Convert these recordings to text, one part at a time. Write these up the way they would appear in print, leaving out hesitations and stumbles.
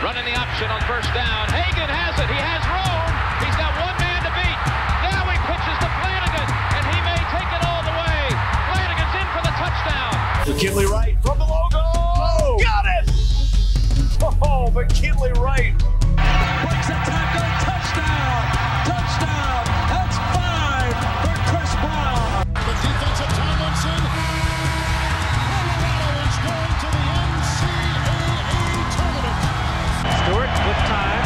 Running the option on first down. Hagan has it. He has room. He's got one man to beat. Now he pitches to Flanagan, and he may take it all the way. Flanagan's in for the touchdown. McKinley Wright from the logo. Oh, got it! Oh, McKinley Wright. Breaks a tackle. Touchdown. Touchdown. That's 5 for Chris Brown. The defensive Tomlinson. Colorado is going to the NCAA tournament. Stewart with time.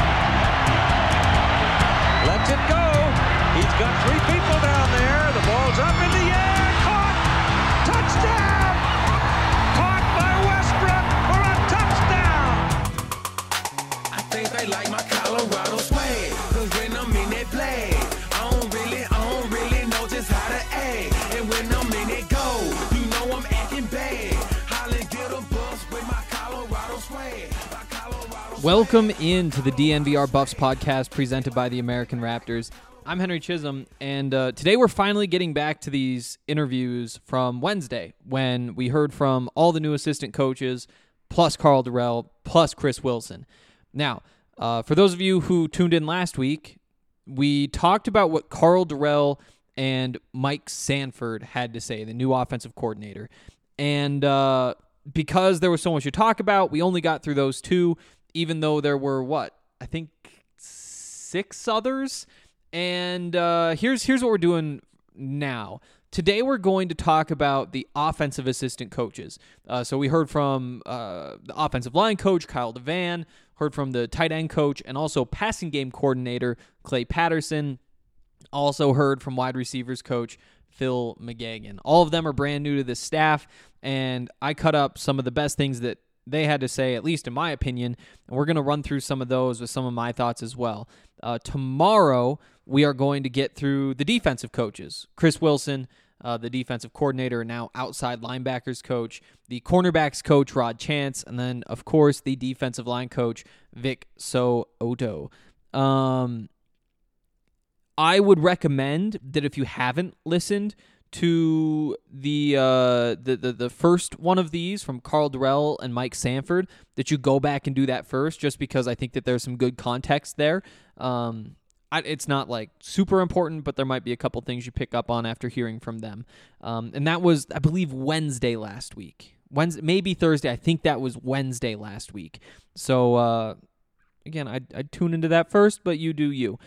Lets it go. He's got 3 people down there. The ball's up in the air. Caught. Touchdown. Caught by Westbrook for a touchdown. I think they like my Colorado swag. Cause when I'm in that play, I don't really know just how to act. And when I'm in it go, you know I'm acting bad. Holly get a bus with my Colorado swag. Welcome into the DNVR Buffs podcast presented by the American Raptors. I'm Henry Chisholm, and today we're finally getting back to these interviews from Wednesday when we heard from all the new assistant coaches, plus Karl Dorrell, plus Chris Wilson. Now, for those of you who tuned in last week, we talked about what Karl Dorrell and Mike Sanford had to say, the new offensive coordinator. And because there was so much to talk about, we only got through those two, even though there were, I think 6 others. And here's what we're doing now. Today we're going to talk about the offensive assistant coaches. So we heard from the offensive line coach, Kyle Devan, heard from the tight end coach, and also passing game coordinator, Clay Patterson. Also heard from wide receivers coach, Phil McGagan. All of them are brand new to this staff, and I cut up some of the best things that they had to say, at least in my opinion, and we're going to run through some of those with some of my thoughts as well. Tomorrow, we are going to get through the defensive coaches. Chris Wilson, the defensive coordinator, now outside linebackers coach, the cornerbacks coach, Rod Chance, and then, of course, the defensive line coach, Vic So'oto. I would recommend that if you haven't listened to the first one of these from Karl Dorrell and Mike Sanford, that you go back and do that first, just because I think that there's some good context there. It's not like super important, but there might be a couple things you pick up on after hearing from them. And that was, I believe, Wednesday last week. Wednesday, maybe Thursday. I think that was Wednesday last week. So again, I'd tune into that first, but you do you.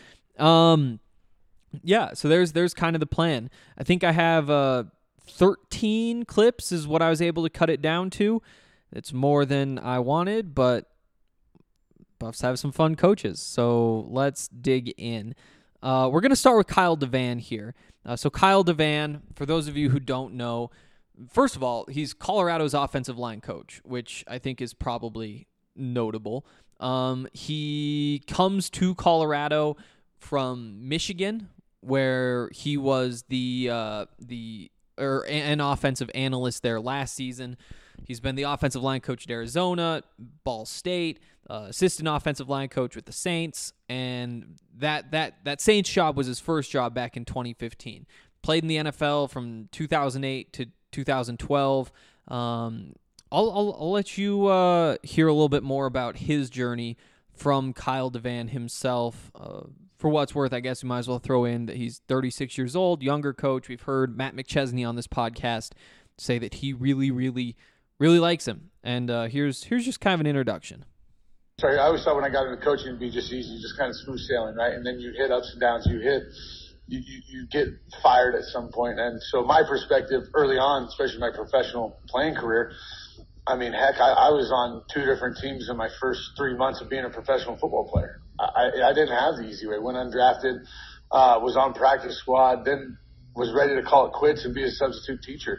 Yeah, so there's kind of the plan. I think I have 13 clips is what I was able to cut it down to. It's more than I wanted, but Buffs have some fun coaches, so let's dig in. We're going to start with Kyle Devan here. So Kyle Devan, for those of you who don't know, first of all, he's Colorado's offensive line coach, which I think is probably notable. He comes to Colorado from Michigan, where he was an offensive analyst there last season. He's been the offensive line coach at Arizona, Ball State, assistant offensive line coach with the Saints, and that Saints job was his first job back in 2015. Played in the NFL from 2008 to 2012. I'll let you hear a little bit more about his journey from Kyle Devan himself. For what it's worth, I guess we might as well throw in that he's 36 years old, younger coach. We've heard Matt McChesney on this podcast say that he really, really, really likes him. And here's just kind of an introduction. Sorry, I always thought when I got into coaching it'd be just easy, just kind of smooth sailing, right? And then you hit ups and downs. You get fired at some point. And so my perspective early on, especially my professional playing career, I mean, heck, I was on 2 different teams in my first 3 months of being a professional football player. I didn't have the easy way. Went undrafted, was on practice squad, then was ready to call it quits and be a substitute teacher.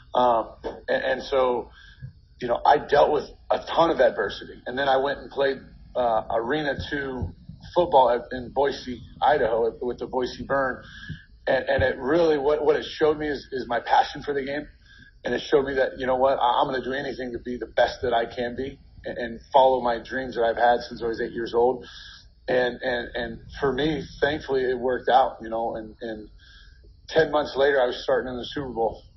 And so, you know, I dealt with a ton of adversity. And then I went and played Arena 2 football in Boise, Idaho, with the Boise Burn. And it really, what it showed me is my passion for the game. And it showed me that, you know what, I'm going to do anything to be the best that I can be and follow my dreams that I've had since I was 8 years old. And for me, thankfully, it worked out, you know, and 10 months later, I was starting in the Super Bowl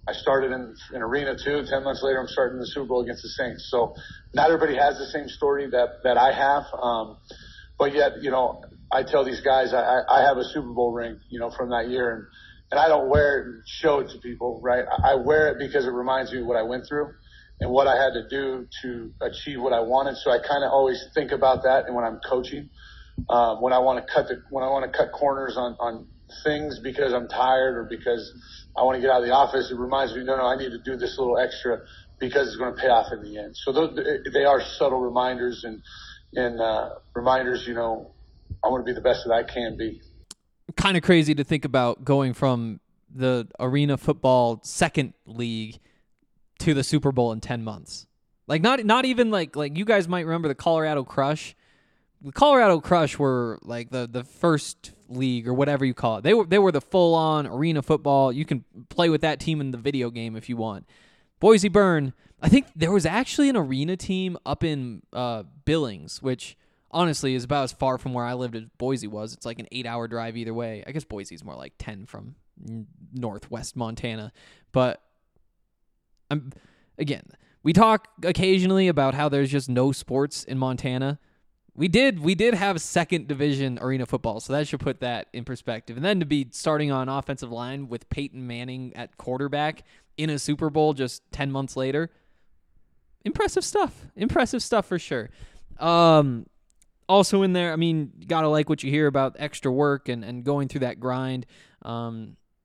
I started in Arena too. 10 months later, I'm starting the Super Bowl against the Saints. So not everybody has the same story that I have. But yet, I tell these guys I have a Super Bowl ring, from that year. And I don't wear it and show it to people, right? I wear it because it reminds me of what I went through and what I had to do to achieve what I wanted. So I kind of always think about that. And when I'm coaching, when I want to cut corners on things because I'm tired or because I want to get out of the office, it reminds me, no, I need to do this little extra because it's going to pay off in the end. So they are subtle reminders and reminders, I want to be the best that I can be. Kind of crazy to think about going from the Arena Football second league to the Super Bowl in 10 months. Like not even like you guys might remember the Colorado Crush. The Colorado Crush were like the first league or whatever you call it. They were the full-on Arena Football. You can play with that team in the video game if you want. Boise Burn, I think there was actually an Arena team up in Billings, which honestly is about as far from where I lived as Boise was. It's like an 8-hour drive either way. I guess Boise's more like 10 from northwest Montana. But again, we talk occasionally about how there's just no sports in Montana. We did have second division Arena Football, so that should put that in perspective. And then to be starting on offensive line with Peyton Manning at quarterback in a Super Bowl just 10 months later, impressive stuff. Impressive stuff for sure. Also in there, I mean, you got to like what you hear about extra work and going through that grind. I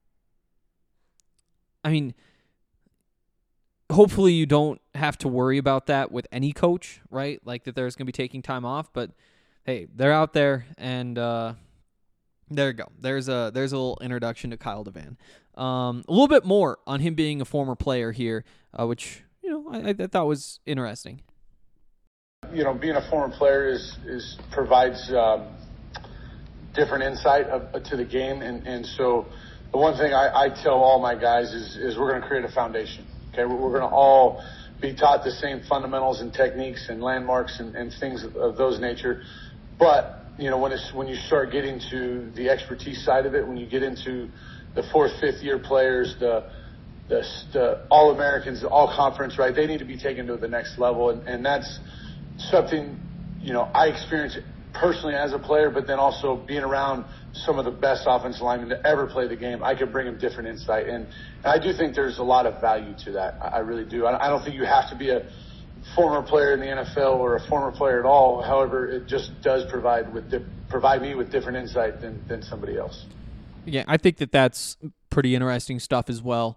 mean, hopefully you don't have to worry about that with any coach, right? Like that there's going to be taking time off, but hey, they're out there, and there you go. There's a little introduction to Kyle DeVan. A little bit more on him being a former player here, which I thought was interesting. Being a former player provides different insight to the game, and so the one thing I tell all my guys is we're going to create a foundation. Okay, we're going to all be taught the same fundamentals and techniques and landmarks and things of those nature. But when you start getting to the expertise side of it, when you get into the 4th, 5th year players, the All-Americans, the All-Conference, right? They need to be taken to the next level, and that's something I experienced personally as a player, but then also being around some of the best offensive linemen to ever play the game. I could bring them different insight, and I do think there's a lot of value to that. I really do. I don't think you have to be a former player in the NFL or a former player at all. However, it just does provide me with different insight than somebody else. Yeah, I think that's pretty interesting stuff as well.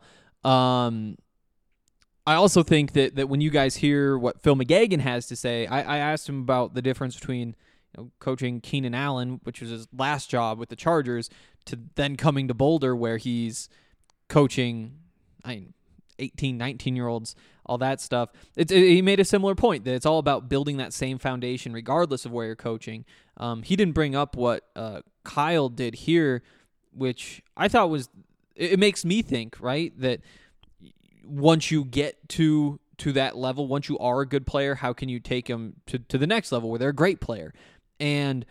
I also think that when you guys hear what Phil McGagan has to say, I asked him about the difference between coaching Keenan Allen, which was his last job with the Chargers, to then coming to Boulder where he's coaching 18, 19-year-olds, all that stuff. He made a similar point that it's all about building that same foundation regardless of where you're coaching. He didn't bring up what Kyle did here, which I thought it makes me think, right, that once you get to that level, once you are a good player, how can you take them to the next level where they're a great player? And,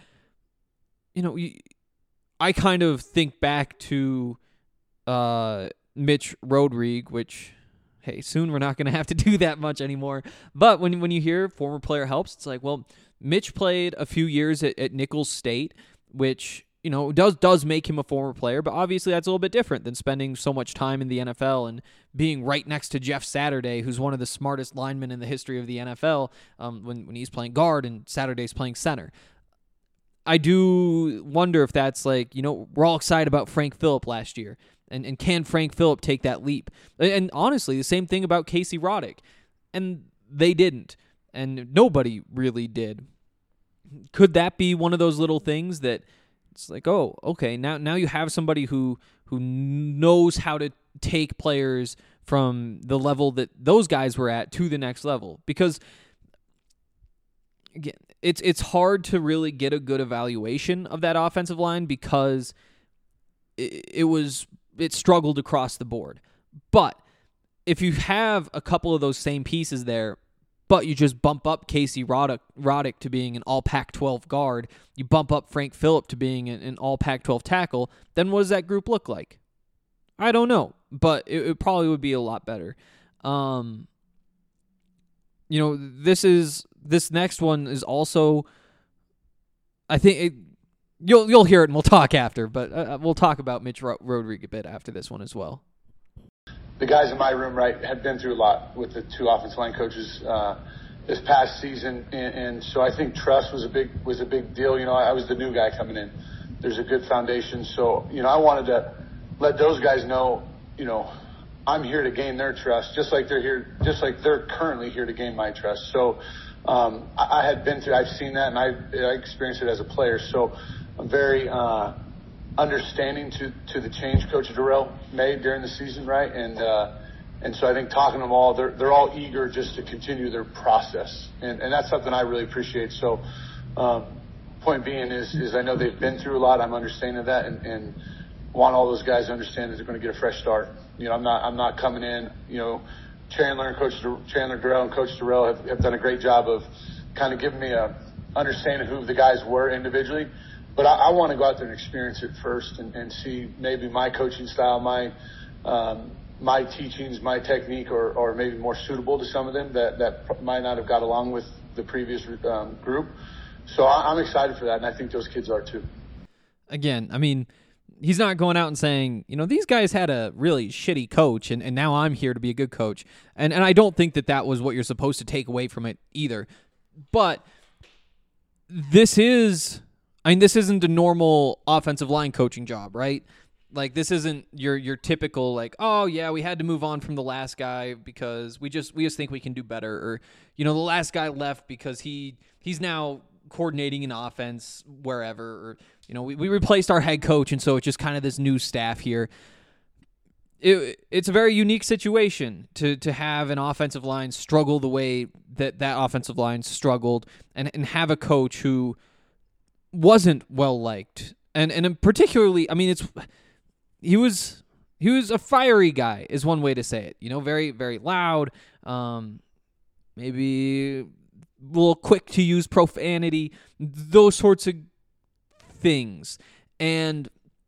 I kind of think back to Mitch Rodrigue, which, hey, soon we're not going to have to do that much anymore. But when you hear former player helps, it's like, well, Mitch played a few years at Nicholls State, which does make him a former player, but obviously that's a little bit different than spending so much time in the NFL and being right next to Jeff Saturday, who's one of the smartest linemen in the history of the NFL, when he's playing guard and Saturday's playing center. I do wonder if that's like, we're all excited about Frank Phillip last year, and can Frank Phillip take that leap? And honestly, the same thing about Casey Roddick, and they didn't, and nobody really did. Could that be one of those little things that it's like, oh, okay, now you have somebody who knows how to take players from the level that those guys were at to the next level? Because again, it's hard to really get a good evaluation of that offensive line because it struggled across the board. But if you have a couple of those same pieces there, but you just bump up Casey Roddick to being an all Pac-12 guard, you bump up Frank Phillip to being an all Pac-12 tackle, then what does that group look like? I don't know, but it probably would be a lot better. This next one is also, I think you'll hear it and we'll talk after, but we'll talk about Mitch Rodriguez a bit after this one as well. The guys in my room, right, had been through a lot with the two offensive line coaches this past season, and so I think trust was a big deal. I was the new guy coming in. There's a good foundation, so I wanted to let those guys know, I'm here to gain their trust, just like they're currently here to gain my trust. So I had been through, I've seen that, and I experienced it as a player. So I'm very understanding to the change Coach Dorrell made during the season, right? And so I think talking to them all, they're all eager just to continue their process, and that's something I really appreciate. So point being is I know they've been through a lot. I'm understanding of that, and want all those guys to understand that they're going to get a fresh start. I'm not coming in. Chandler Dorrell and Coach Dorrell have done a great job of kind of giving me a understanding of who the guys were individually. But I want to go out there and experience it first and see maybe my coaching style, my teachings, my technique, or maybe more suitable to some of them that might not have got along with the previous group. So I'm excited for that, and I think those kids are too. Again, I mean, he's not going out and saying, these guys had a really shitty coach, and now I'm here to be a good coach. And I don't think that was what you're supposed to take away from it either. But this isn't a normal offensive line coaching job, right? Like, this isn't your typical, like, oh, yeah, we had to move on from the last guy because we just think we can do better. Or, the last guy left because he's now coordinating an offense wherever, or we replaced our head coach, and so it's just kind of this new staff here. It's a very unique situation to have an offensive line struggle the way that offensive line struggled, and have a coach who wasn't well liked, and particularly, I mean, he was a fiery guy is one way to say it. Very, very loud, maybe a little quick to use profanity, those sorts of things. And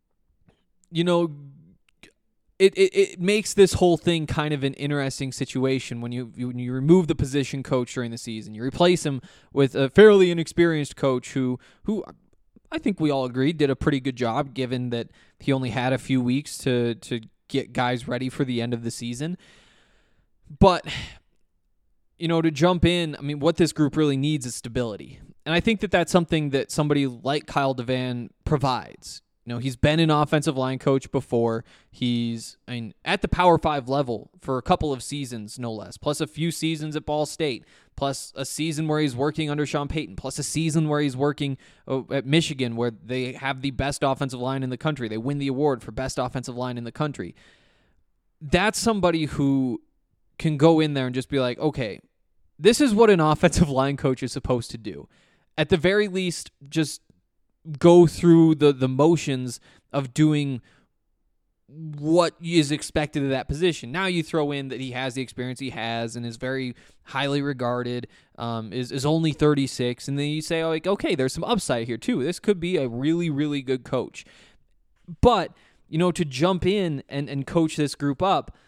it makes this whole thing kind of an interesting situation when you remove the position coach during the season. You replace him with a fairly inexperienced coach who I think we all agree did a pretty good job, given that he only had a few weeks to get guys ready for the end of the season. But to jump in, I mean, what this group really needs is stability. And I think that's something that somebody like Kyle Devan provides. He's been an offensive line coach before. He's at the Power 5 level for a couple of seasons, no less, plus a few seasons at Ball State, plus a season where he's working under Sean Payton, plus a season where he's working at Michigan, where they have the best offensive line in the country. They win the award for best offensive line in the country. That's somebody who can go in there and just be like, okay, this is what an offensive line coach is supposed to do. At the very least, just go through the motions of doing what is expected of that position. Now you throw in that he has the experience he has and is very highly regarded, is only 36, and then you say, okay, there's some upside here too. This could be a really, really good coach. But, to jump in and coach this group up,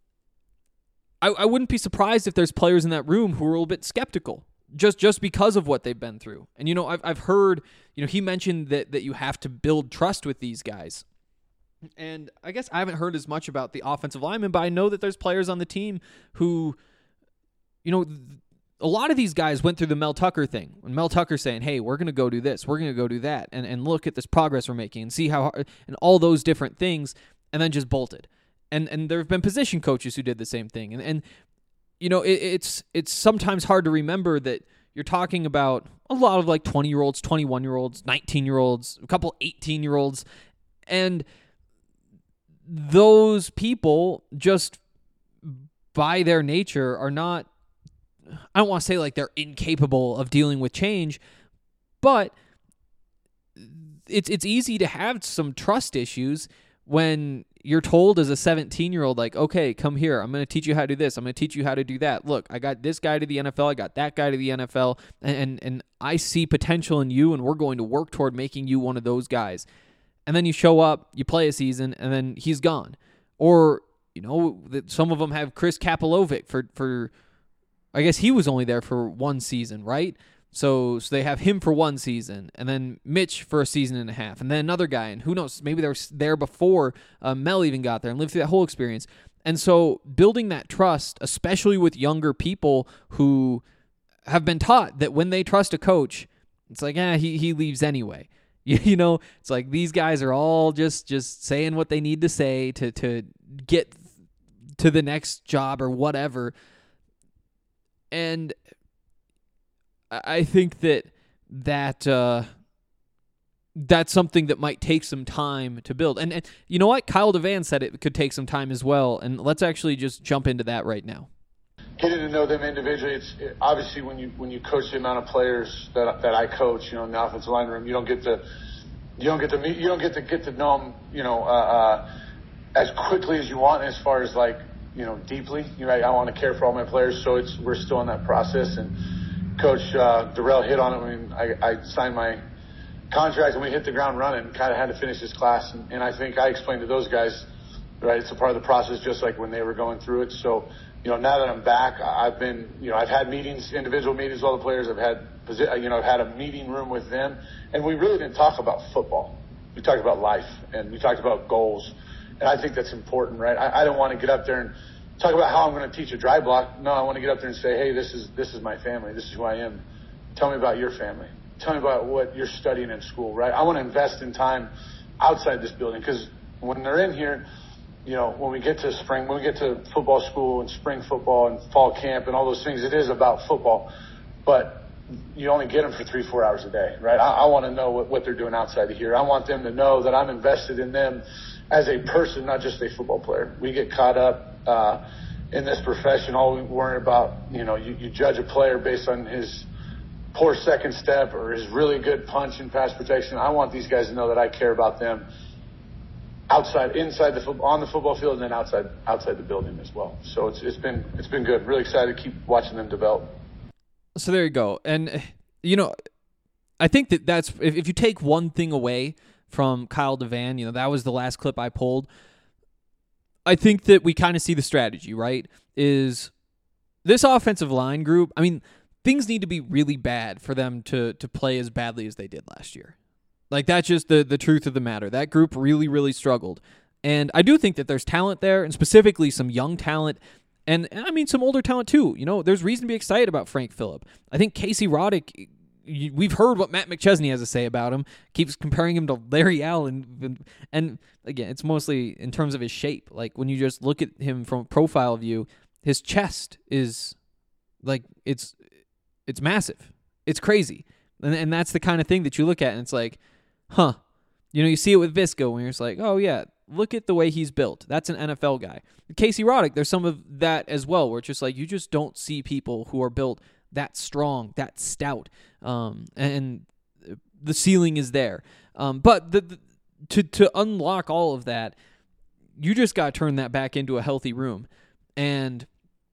I wouldn't be surprised if there's players in that room who are a little bit skeptical. Just because of what they've been through. And, I've heard, he mentioned that you have to build trust with these guys. And I guess I haven't heard as much about the offensive linemen, but I know that there's players on the team who, a lot of these guys went through the Mel Tucker thing. When Mel Tucker's saying, hey, we're going to go do this, we're going to go do that, and look at this progress we're making and see how, and all those different things, and then just bolted. And there have been position coaches who did the same thing. And it's sometimes hard to remember that you're talking about a lot of 20-year-olds, 21-year-olds, 19-year-olds, a couple 18-year-olds, and those people just by their nature are not, I don't want to say they're incapable of dealing with change, but it's easy to have some trust issues when you're told as a 17-year-old, okay, come here. I'm going to teach you how to do this. I'm going to teach you how to do that. Look, I got this guy to the NFL. I got that guy to the NFL. And I see potential in you, and we're going to work toward making you one of those guys. And then you show up, you play a season, and then he's gone. Or, that some of them have Chris Kapilovic for I guess he was only there for one season, right? So they have him for one season, and then Mitch for a season and a half, and then another guy, and who knows, maybe they were there before Mel even got there and lived through that whole experience. And so building that trust, especially with younger people who have been taught that when they trust a coach, it's like, he leaves anyway. It's like these guys are all just saying what they need to say to get to the next job or whatever. And I think that's something that might take some time to build. And you know what? Kyle Devan said it could take some time as well. And let's actually just jump into that right now. Getting to know them individually, obviously when you coach the amount of players that I coach, in the offensive line room, you don't get to get to know them, as quickly as you want, as far as deeply. I want to care for all my players, so we're still in that process. And Coach Darrell hit on it when I signed my contract, and we hit the ground running. Kind of had to finish this class, and I think I explained to those guys, right? It's a part of the process, just like when they were going through it. So. Now that I'm back, I've had meetings, individual meetings with all the players. I've had a meeting room with them, and we really didn't talk about football. We talked about life, and we talked about goals, and I think that's important, right? I don't want to get up there and talk about how I'm going to teach a dry block. No, I want to get up there and say, hey, this is my family. This is who I am. Tell me about your family. Tell me about what you're studying in school, right? I want to invest in time outside this building, because when they're in here, when we get to spring, when we get to football school and spring football and fall camp and all those things, it is about football. But you only get them for 3-4 hours a day, right? I want to know what they're doing outside of here. I want them to know that I'm invested in them as a person, not just a football player. We get caught up in this profession. All we worry about, you judge a player based on his poor second step or his really good punch and pass protection. I want these guys to know that I care about them inside on the football field, and then outside the building as well. So it's been good. Really excited to keep watching them develop. So there you go. And I think that's if you take one thing away from Kyle Devan, that was the last clip I pulled. I think that we kind of see the strategy, right? Is this offensive line group? I mean, things need to be really bad for them to play as badly as they did last year. That's just the truth of the matter. That group really, really struggled. And I do think that there's talent there, and specifically some young talent, and I mean some older talent too. There's reason to be excited about Frank Phillip. I think Casey Roddick, we've heard what Matt McChesney has to say about him, keeps comparing him to Larry Allen. And again, it's mostly in terms of his shape. When you just look at him from a profile view, his chest is it's massive. It's crazy. And that's the kind of thing that you look at, and it's like, huh. You see it with Visco when you're just like, oh, yeah, look at the way he's built. That's an NFL guy. Casey Roddick, there's some of that as well, where it's just like you just don't see people who are built that strong, that stout, and the ceiling is there. But to unlock all of that, you just got to turn that back into a healthy room. And,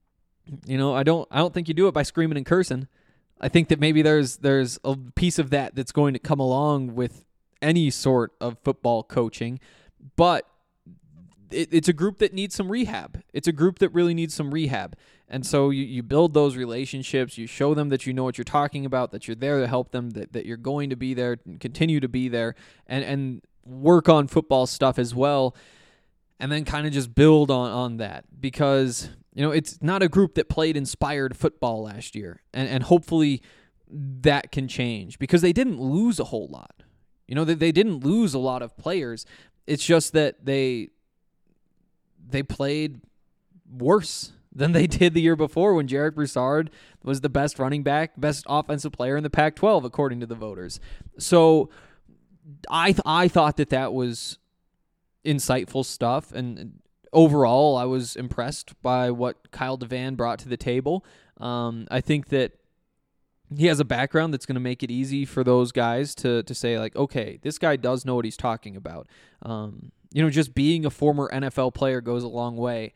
I don't think you do it by screaming and cursing. I think that maybe there's a piece of that that's going to come along with any sort of football coaching, but it's a group that needs some rehab. It's a group that really needs some rehab. And so you build those relationships, you show them that you know what you're talking about, that you're there to help them, that you're going to be there and continue to be there, and work on football stuff as well, and then kind of just build on that. Because, it's not a group that played inspired football last year, and hopefully that can change, because they didn't lose a whole lot. They didn't lose a lot of players. It's just that they played worse than they did the year before, when Jarek Broussard was the best running back, best offensive player in the Pac-12, according to the voters. So I thought that was insightful stuff, and overall I was impressed by what Kyle Devan brought to the table. I think that he has a background that's going to make it easy for those guys to say, okay, this guy does know what he's talking about. Just being a former NFL player goes a long way.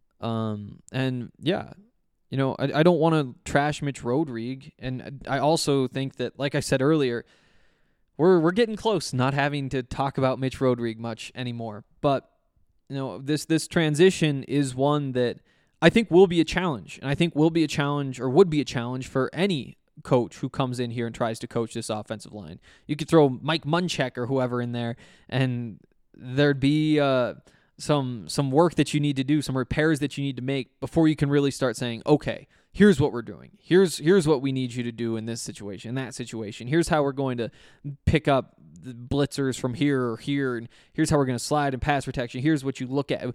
And yeah, I don't want to trash Mitch Rodrigue. And I also think that, like I said earlier, we're getting close not having to talk about Mitch Rodrigue much anymore. But this transition is one that I think will be a challenge, and I think will be a challenge, or would be a challenge for any coach who comes in here and tries to coach this offensive line. You could throw Mike Munchak or whoever in there, and there'd be some work that you need to do, some repairs that you need to make before you can really start saying, okay, here's what we're doing. Here's what we need you to do in this situation, that situation. Here's how we're going to pick up the blitzers from here or here, and here's how we're going to slide and pass protection. Here's what you look at.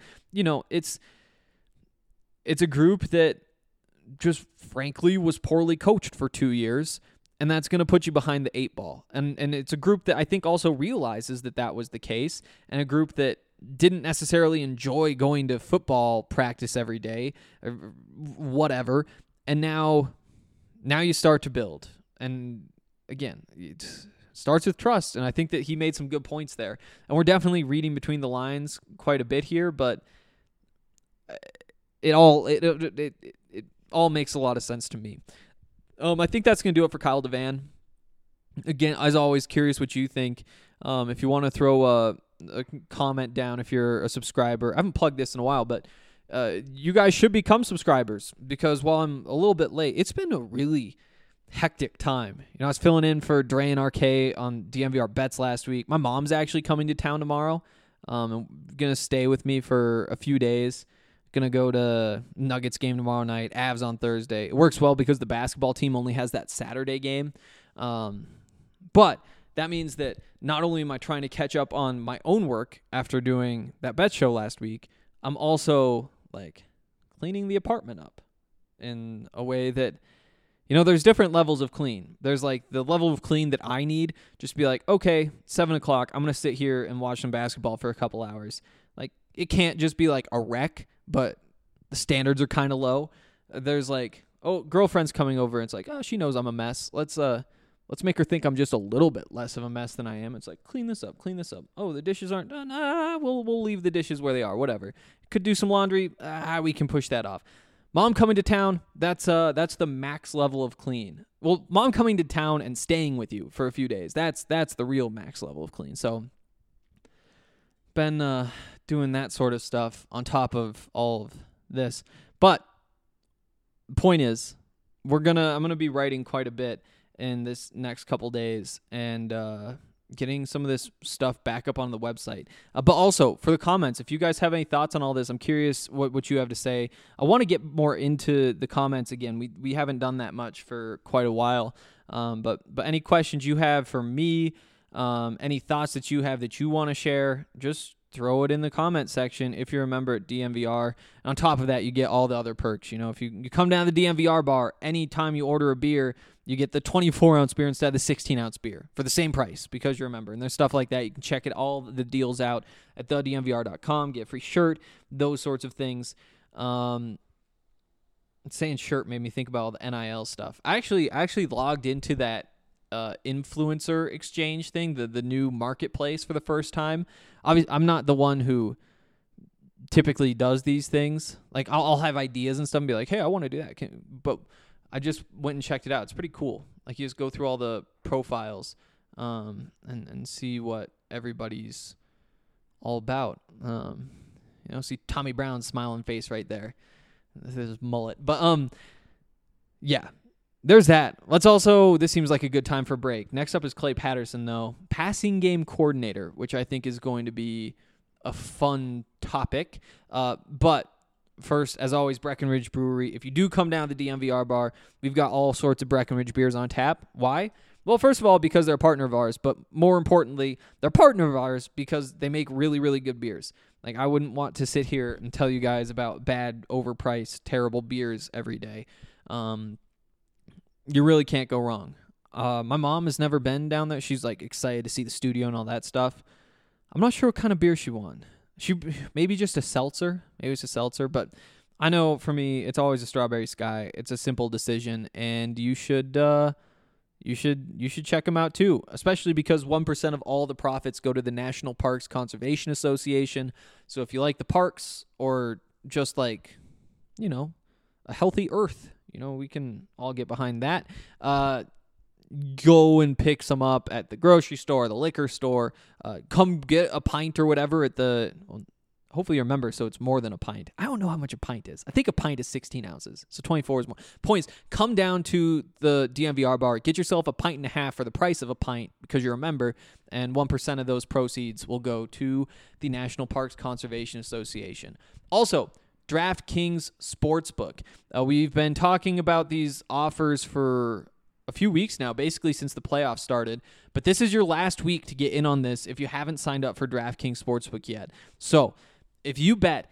It's a group that just frankly was poorly coached for 2 years, and that's going to put you behind the 8 ball. And it's a group that I think also realizes that was the case, and a group that didn't necessarily enjoy going to football practice every day, or whatever. And now you start to build. And again, it starts with trust, and I think that he made some good points there. And we're definitely reading between the lines quite a bit here, but it all makes a lot of sense to me. I think that's going to do it for Kyle Devan. Again, as always, curious what you think. If you want to throw a comment down, if you're a subscriber, I haven't plugged this in a while, but you guys should become subscribers, because while I'm a little bit late, it's been a really hectic time. I was filling in for Dre and RK on DNVR Bets last week. My mom's actually coming to town tomorrow. And going to stay with me for a few days. Going to go to Nuggets game tomorrow night, Avs on Thursday. It works well because the basketball team only has that Saturday game. But that means that not only am I trying to catch up on my own work after doing that bet show last week, I'm also cleaning the apartment up in a way that, there's different levels of clean. There's the level of clean that I need, just to be okay, 7 o'clock, I'm going to sit here and watch some basketball for a couple hours. It can't just be a wreck, but the standards are kind of low. There's girlfriend's coming over, and it's she knows I'm a mess. Let's make her think I'm just a little bit less of a mess than I am. It's clean this up. Oh, the dishes aren't done. We'll leave the dishes where they are. Whatever. Could do some laundry. We can push that off. Mom coming to town. That's the max level of clean. Well, mom coming to town and staying with you for a few days. That's the real max level of clean. So been doing that sort of stuff on top of all of this. But the point is, I'm gonna be writing quite a bit in this next couple days, and getting some of this stuff back up on the website. But also, for the comments, if you guys have any thoughts on all this, I'm curious what you have to say. I want to get more into the comments again. We haven't done that much for quite a while. But any questions you have for me, any thoughts that you have that you want to share, just throw it in the comment section if you're a member at DNVR. And on top of that, you get all the other perks. If you come down to the DNVR bar, anytime you order a beer, you get the 24-ounce beer instead of the 16-ounce beer for the same price because you're a member. And there's stuff like that. You can check all the deals out at thednvr.com, get a free shirt, those sorts of things. Saying shirt made me think about all the NIL stuff. I actually logged into that influencer exchange thing, the new marketplace, for the first time. Obviously, I'm not the one who typically does these things. I'll have ideas and stuff and be hey, I want to do that. But I just went and checked it out. It's pretty cool. You just go through all the profiles and see what everybody's all about. See Tommy Brown's smiling face right there. His mullet. But yeah. There's that. This seems like a good time for a break. Next up is Clay Patterson, though. Passing game coordinator, which I think is going to be a fun topic. But first, as always, Breckenridge Brewery. If you do come down to the DNVR bar, we've got all sorts of Breckenridge beers on tap. Why? Well, first of all, because they're a partner of ours. But more importantly, they're a partner of ours because they make really, really good beers. I wouldn't want to sit here and tell you guys about bad, overpriced, terrible beers every day. You really can't go wrong. My mom has never been down there. She's excited to see the studio and all that stuff. I'm not sure what kind of beer she won. Maybe just a seltzer. Maybe it's a seltzer. But I know for me, it's always a Strawberry Sky. It's a simple decision, and you should check them out too. Especially because 1% of all the profits go to the National Parks Conservation Association. So if you like the parks or just a healthy earth, we can all get behind that. Go and pick some up at the grocery store, the liquor store. Come get a pint or whatever at Hopefully you remember, so it's more than a pint. I don't know how much a pint is. I think a pint is 16 ounces, so 24 is more. Points, come down to the DNVR bar, get yourself a pint and a half for the price of a pint because you're a member, and 1% of those proceeds will go to the National Parks Conservation Association. Also, DraftKings Sportsbook. We've been talking about these offers for a few weeks now, basically since the playoffs started. But this is your last week to get in on this if you haven't signed up for DraftKings Sportsbook yet. So if you bet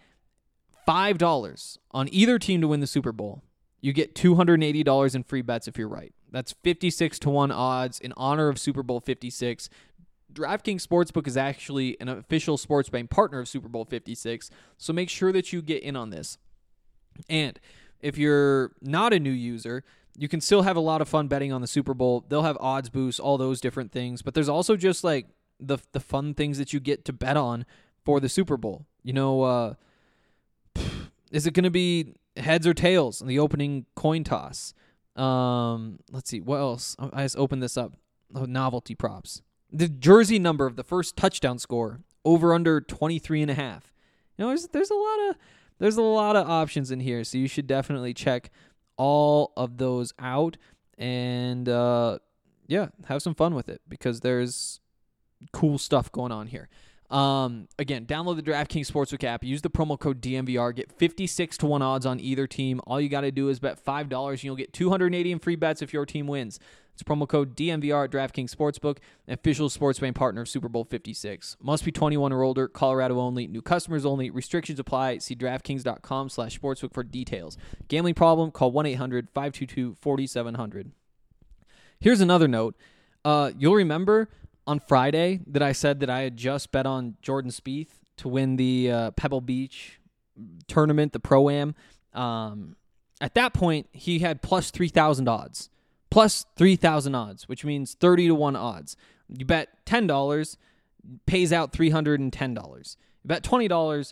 $5 on either team to win the Super Bowl, you get $280 in free bets if you're right. That's 56-1 odds in honor of Super Bowl 56. DraftKings Sportsbook is actually an official sports betting partner of Super Bowl 56, so make sure that you get in on this. And if you're not a new user, you can still have a lot of fun betting on the Super Bowl. They'll have odds boosts, all those different things, but there's also just like the fun things that you get to bet on for the Super Bowl. You know, is it going to be heads or tails in the opening coin toss? Let's see, what else? I just opened this up. Oh, novelty props. The jersey number of the first touchdown score, over under 23.5. You know, there's a lot of options in here, so you should definitely check all of those out and have some fun with it because there's cool stuff going on here. Again, download the DraftKings Sportsbook app, use the promo code DNVR, get 56-1 odds on either team. All you got to do is bet $5 and you'll get $280 in free bets if your team wins. It's promo code DNVR at DraftKings Sportsbook, an official sports betting partner of Super Bowl 56. Must be 21 or older, Colorado only, new customers only, restrictions apply. See DraftKings.com/sportsbook for details. Gambling problem? Call 1-800-522-4700. Here's another note. You'll remember on Friday that I said that I had just bet on Jordan Spieth to win the Pebble Beach tournament, the Pro-Am. At that point, he had plus 3,000 odds. Plus 3,000 odds, which means 30-1 odds. You bet $10, pays out $310. You bet $20,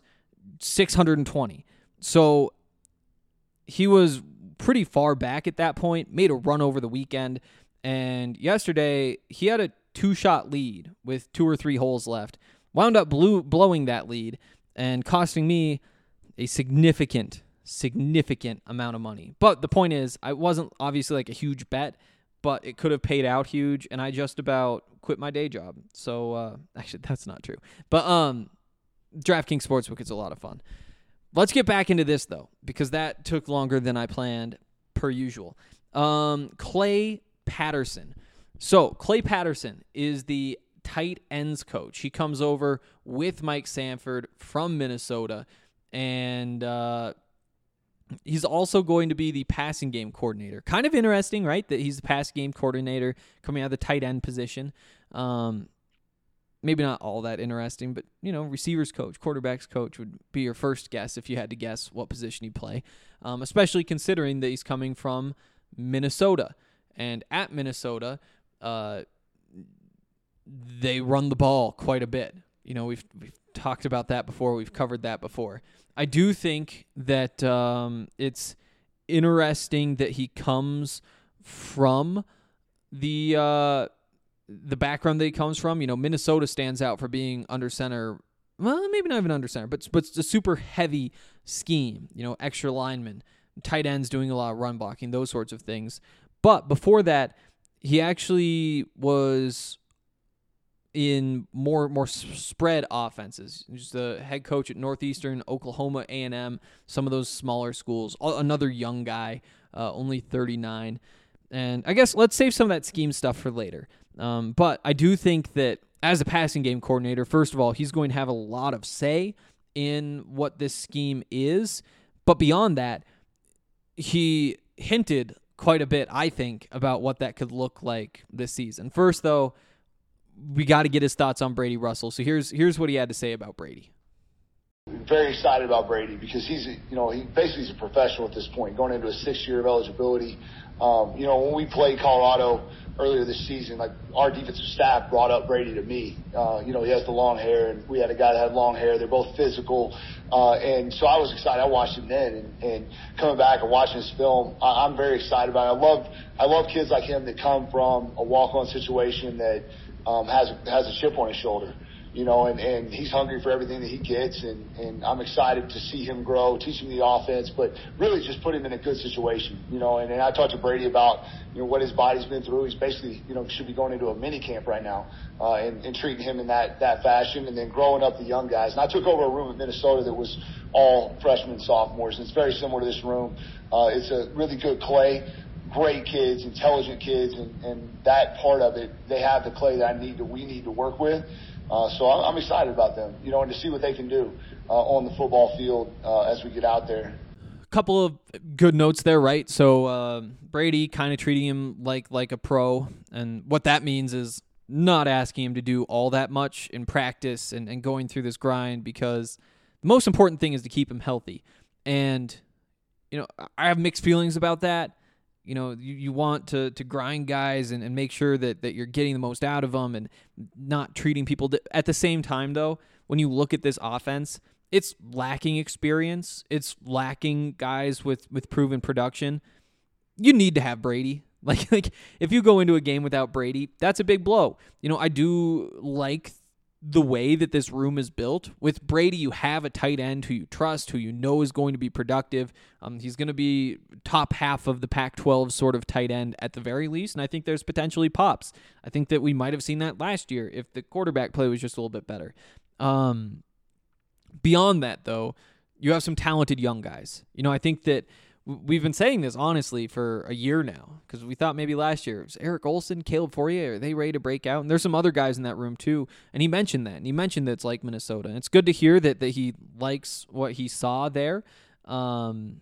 $620. So he was pretty far back at that point, made a run over the weekend, and yesterday he had a 2-shot lead with 2 or 3 holes left, wound up blowing that lead and costing me a significant amount of money. But the point is, I wasn't obviously like a huge bet, but it could have paid out huge, and I just about quit my day job. So, actually, that's not true. But DraftKings Sportsbook is a lot of fun. Let's get back into this, though, because that took longer than I planned, per usual. Clay Patterson. So, Clay Patterson is the tight ends coach. He comes over with Mike Sanford from Minnesota, and he's also going to be the passing game coordinator. Kind of interesting, right, that he's the passing game coordinator coming out of the tight end position. Maybe not all that interesting, but, you know, receivers coach, quarterbacks coach would be your first guess if you had to guess what position he'd play, especially considering that he's coming from Minnesota. And at Minnesota, they run the ball quite a bit. You know, we've talked about that before. We've covered that before. I do think that it's interesting that he comes from the background that he comes from. You know, Minnesota stands out for being under center. Well, maybe not even under center, but it's a super heavy scheme. You know, extra linemen, tight ends doing a lot of run blocking, those sorts of things. But before that, he actually was in more spread offenses. He's the head coach at Northeastern, Oklahoma A&M, some of those smaller schools. Another young guy, only 39. And I guess let's save some of that scheme stuff for later. But I do think that as a passing game coordinator, first of all, he's going to have a lot of say in what this scheme is. But beyond that, he hinted quite a bit, I think, about what that could look like this season. First, though, we got to get his thoughts on Brady Russell. So here's what he had to say about Brady. Very excited about Brady because he basically is a professional at this point, going into a 6th year of eligibility. When we played Colorado earlier this season, like our defensive staff brought up Brady to me. He has the long hair, and we had a guy that had long hair. They're both physical, and so I was excited. I watched him then, and coming back and watching his film, I'm very excited about it. I love kids like him that come from a walk-on situation that has a chip on his shoulder. and he's hungry for everything that he gets, and I'm excited to see him grow, teach him the offense, but really just put him in a good situation, and I talked to Brady about, what his body's been through. He's basically, should be going into a mini camp right now, and treating him in that fashion, and then growing up the young guys. And I took over a room in Minnesota that was all freshmen and sophomores, and it's very similar to this room. It's a really good clay, great kids, intelligent kids, and that part of it, they have the clay that we need to work with. So I'm excited about them, and to see what they can do on the football field as we get out there. Couple of good notes there, right? So Brady kind of treating him like a pro, and what that means is not asking him to do all that much in practice and going through this grind, because the most important thing is to keep him healthy. And, I have mixed feelings about that. You want to grind guys and make sure that you're getting the most out of them and not treating people. At the same time, though, when you look at this offense, it's lacking experience. It's lacking guys with proven production. You need to have Brady. Like if you go into a game without Brady, that's a big blow. I do like the way that this room is built. With Brady, you have a tight end who you trust, who you know is going to be productive. He's going to be top half of the Pac-12 sort of tight end at the very least, and I think there's potentially pops. I think that we might have seen that last year if the quarterback play was just a little bit better. Beyond that, though, you have some talented young guys. I think that we've been saying this, honestly, for a year now, because we thought maybe last year, it was Eric Olson, Caleb Fourier, are they ready to break out? And there's some other guys in that room, too. And he mentioned that. And he mentioned that it's like Minnesota. And it's good to hear that he likes what he saw there. Again,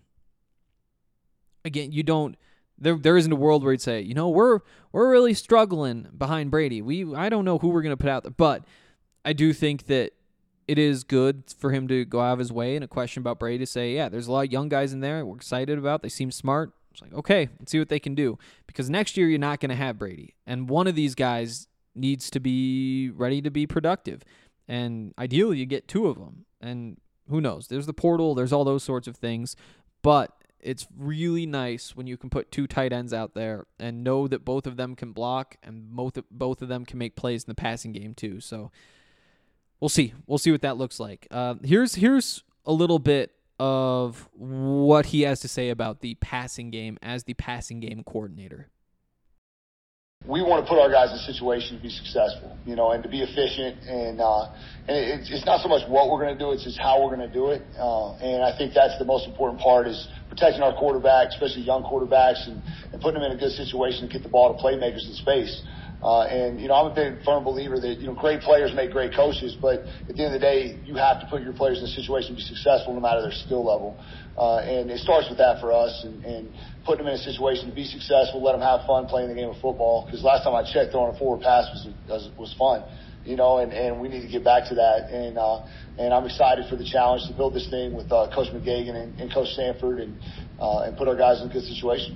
you don't... There isn't a world where you'd say, we're really struggling behind Brady. I don't know who we're going to put out there. But I do think that it is good for him to go out of his way in a question about Brady to say, yeah, there's a lot of young guys in there we're excited about. They seem smart. It's like, okay, let's see what they can do. Because next year you're not going to have Brady. And one of these guys needs to be ready to be productive. And ideally you get two of them. And who knows? There's the portal. There's all those sorts of things. But it's really nice when you can put two tight ends out there and know that both of them can block and both of them can make plays in the passing game too. So we'll see. We'll see what that looks like. Here's a little bit of what he has to say about the passing game as the passing game coordinator. We want to put our guys in a situation to be successful, and to be efficient. And it's not so much what we're going to do, it's just how we're going to do it. And I think that's the most important part, is protecting our quarterbacks, especially young quarterbacks, and putting them in a good situation to get the ball to playmakers in space. I'm a big firm believer that, great players make great coaches, but at the end of the day, you have to put your players in a situation to be successful no matter their skill level. And it starts with that for us, and putting them in a situation to be successful, let them have fun playing the game of football. Because last time I checked, throwing a forward pass was fun, and we need to get back to that. And I'm excited for the challenge to build this thing with Coach McGagan and Coach Sanford and put our guys in a good situation.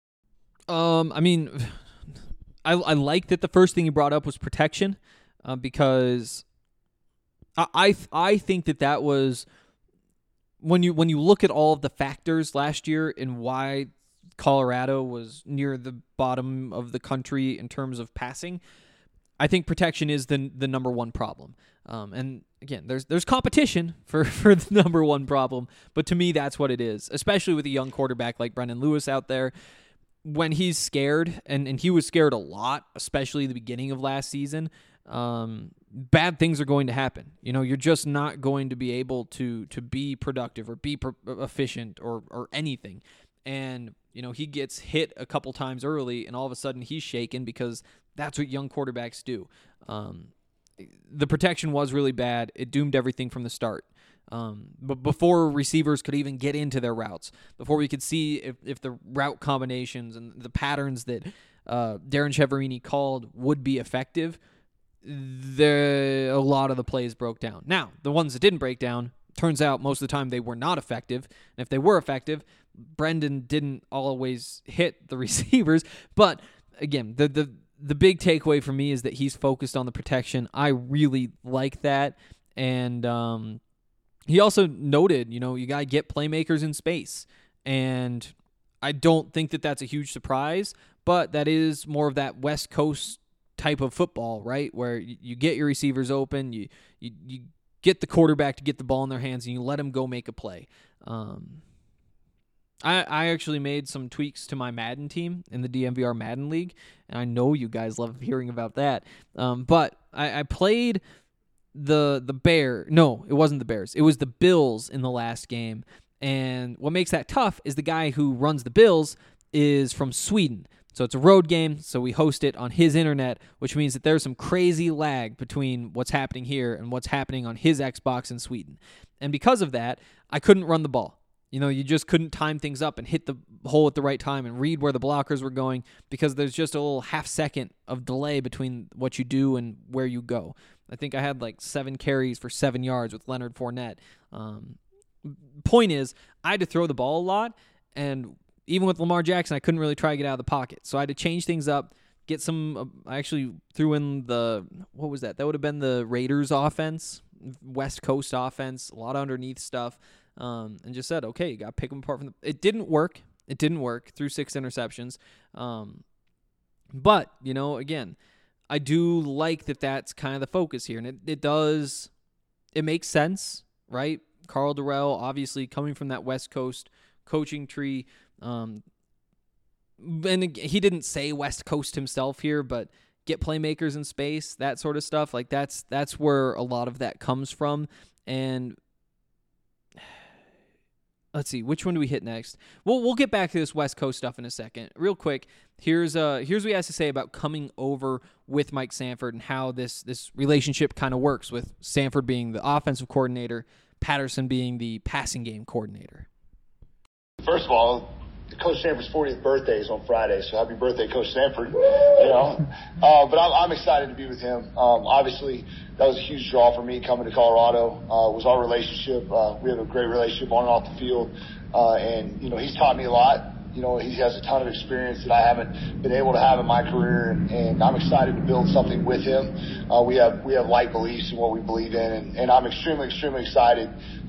I like that the first thing he brought up was protection, because I think that was when you look at all of the factors last year and why Colorado was near the bottom of the country in terms of passing, I think protection is the number one problem. And again, there's competition for the number one problem, but to me that's what it is, especially with a young quarterback like Brendan Lewis out there. When he's scared, and he was scared a lot, especially the beginning of last season, bad things are going to happen. You're just not going to be able to be productive or be efficient or anything. And, he gets hit a couple times early, and all of a sudden he's shaken, because that's what young quarterbacks do. The protection was really bad. It doomed everything from the start. But before receivers could even get into their routes, before we could see if the route combinations and the patterns that Darren Chiaverini called would be effective, a lot of the plays broke down. Now, the ones that didn't break down, turns out most of the time they were not effective. And if they were effective, Brendan didn't always hit the receivers. But again, the big takeaway for me is that he's focused on the protection. I really like that. And he also noted, you got to get playmakers in space. And I don't think that that's a huge surprise, but that is more of that West Coast type of football, right? Where you get your receivers open, you get the quarterback to get the ball in their hands, and you let them go make a play. I actually made some tweaks to my Madden team in the DNVR Madden League, and I know you guys love hearing about that. But I played the Bear. No, it wasn't the Bears. It was the Bills in the last game. And what makes that tough is the guy who runs the Bills is from Sweden. So it's a road game, so we host it on his internet, which means that there's some crazy lag between what's happening here and what's happening on his Xbox in Sweden. And because of that, I couldn't run the ball. You just couldn't time things up and hit the hole at the right time and read where the blockers were going because there's just a little half second of delay between what you do and where you go. I think I had like 7 carries for 7 yards with Leonard Fournette. Point is, I had to throw the ball a lot, and even with Lamar Jackson, I couldn't really try to get out of the pocket. So I had to change things up, get some I actually threw in what was that? That would have been the Raiders offense, West Coast offense, a lot of underneath stuff, and just said, okay, you got to pick them apart from It didn't work. It didn't work. Threw 6 interceptions. But, again, I do like that that's kind of the focus here, and it makes sense, right? Carl Durrell, obviously coming from that West Coast coaching tree, and he didn't say West Coast himself here, but get playmakers in space, that sort of stuff. Like that's where a lot of that comes from. And let's see, which one do we hit next? We'll get back to this West Coast stuff in a second. Real quick, here's what he has to say about coming over with Mike Sanford and how this relationship kind of works, with Sanford being the offensive coordinator, Patterson being the passing game coordinator. First of all, Coach Sanford's 40th birthday is on Friday, so happy birthday, Coach Sanford. But I'm excited to be with him. Obviously, that was a huge draw for me coming to Colorado. Was our relationship. We have a great relationship on and off the field. And he's taught me a lot. He has a ton of experience that I haven't been able to have in my career, and I'm excited to build something with him. We have like beliefs in what we believe in, and I'm extremely, extremely excited,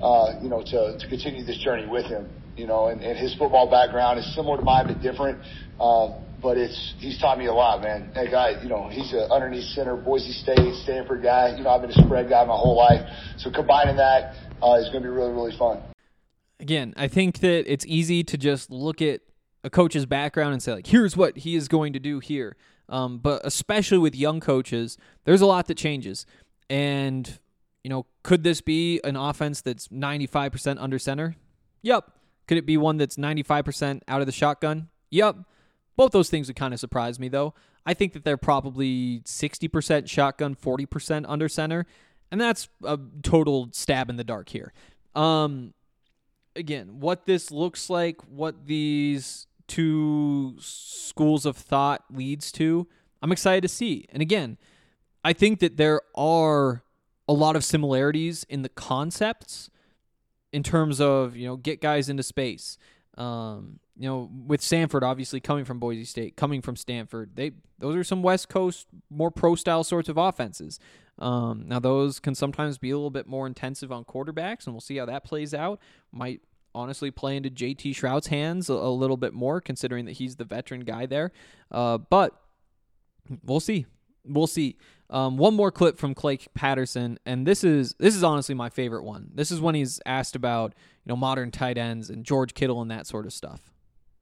to continue this journey with him. And his football background is similar to mine, but different. But he's taught me a lot, man. That guy, he's an underneath center, Boise State, Stanford guy. I've been a spread guy my whole life. So combining that is going to be really, really fun. Again, I think that it's easy to just look at a coach's background and say, like, here's what he is going to do here. But especially with young coaches, there's a lot that changes. And, could this be an offense that's 95% under center? Yep. Could it be one that's 95% out of the shotgun? Yep. Both those things would kind of surprise me, though. I think that they're probably 60% shotgun, 40% under center, and that's a total stab in the dark here. Again, what this looks like, what these two schools of thought leads to, I'm excited to see. And again, I think that there are a lot of similarities in the concepts in terms of, get guys into space. With Sanford obviously coming from Boise State, coming from Stanford, those are some West Coast, more pro-style sorts of offenses. Now, those can sometimes be a little bit more intensive on quarterbacks, and we'll see how that plays out. Might honestly play into JT Shrout's hands a little bit more, considering that he's the veteran guy there. But we'll see. We'll see. One more clip from Clay Patterson, and this is honestly my favorite one. This is when he's asked about modern tight ends and George Kittle and that sort of stuff.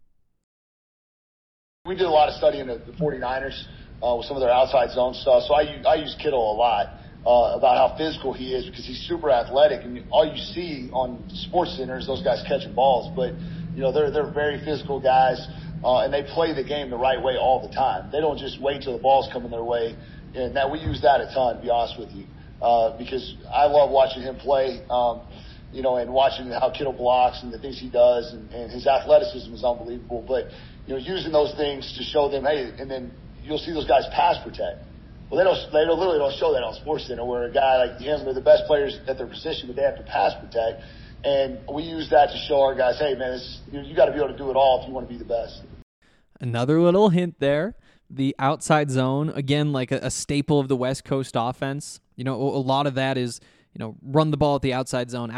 We did a lot of studying the 49ers with some of their outside zone stuff. So I use Kittle a lot about how physical he is, because he's super athletic, and all you see on SportsCenter is those guys catching balls. But they're very physical guys, and they play the game the right way all the time. They don't just wait till the ball's coming their way. And that we use that a ton, to be honest with you, because I love watching him play, and watching how Kittle blocks and the things he does, and his athleticism is unbelievable. But, using those things to show them, hey, and then you'll see those guys pass protect. Well, they literally don't show that on SportsCenter, where a guy like him, they're the best players at their position, but they have to pass protect. And we use that to show our guys, hey, man, you got to be able to do it all if you want to be the best. Another little hint there. The outside zone, again, like a staple of the West Coast offense. A lot of that is, run the ball at the outside zone,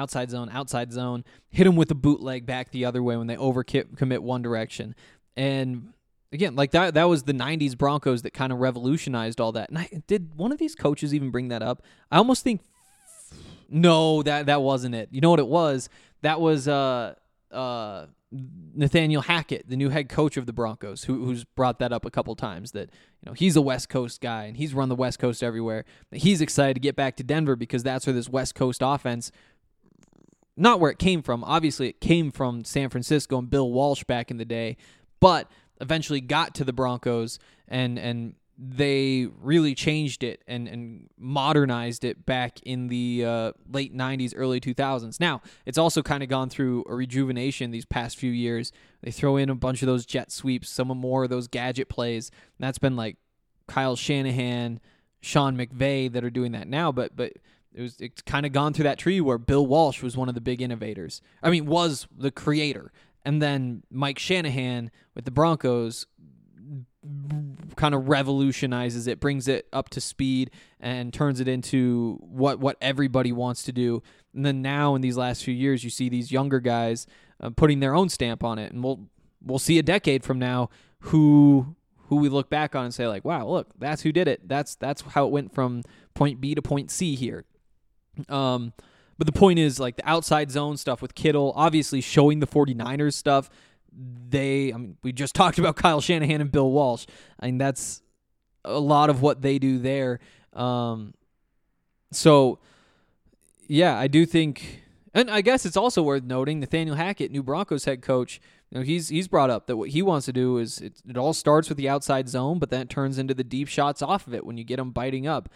hit them with a bootleg back the other way when they overcommit one direction. And again, like that was the 90s Broncos that kind of revolutionized all that. And did one of these coaches even bring that up? I almost think no, that wasn't it. You know what it was? That was Nathaniel Hackett, the new head coach of the Broncos, who's brought that up a couple times, that he's a West Coast guy and he's run the West Coast everywhere. He's excited to get back to Denver because that's where this West Coast offense, not where it came from. Obviously, it came from San Francisco and Bill Walsh back in the day, but eventually got to the Broncos and they really changed it and modernized it back in the late 90s, early 2000s. Now, it's also kind of gone through a rejuvenation these past few years. They throw in a bunch of those jet sweeps, some more of those gadget plays. And that's been like Kyle Shanahan, Sean McVay that are doing that now, but it's kind of gone through that tree where Bill Walsh was one of the big innovators. I mean, was the creator. And then Mike Shanahan with the Broncos kind of revolutionizes it, brings it up to speed, and turns it into what everybody wants to do. And then now in these last few years, you see these younger guys putting their own stamp on it, and we'll see a decade from now who we look back on and say like, wow, look, that's who did it. That's how it went from point B to point C here. But the point is, like, the outside zone stuff with Kittle, obviously showing the 49ers stuff. We just talked about Kyle Shanahan and Bill Walsh. I mean, that's a lot of what they do there. So, yeah, I do think, and I guess it's also worth noting, Nathaniel Hackett, new Broncos head coach, he's brought up that what he wants to do is it all starts with the outside zone, but then it turns into the deep shots off of it when you get them biting up.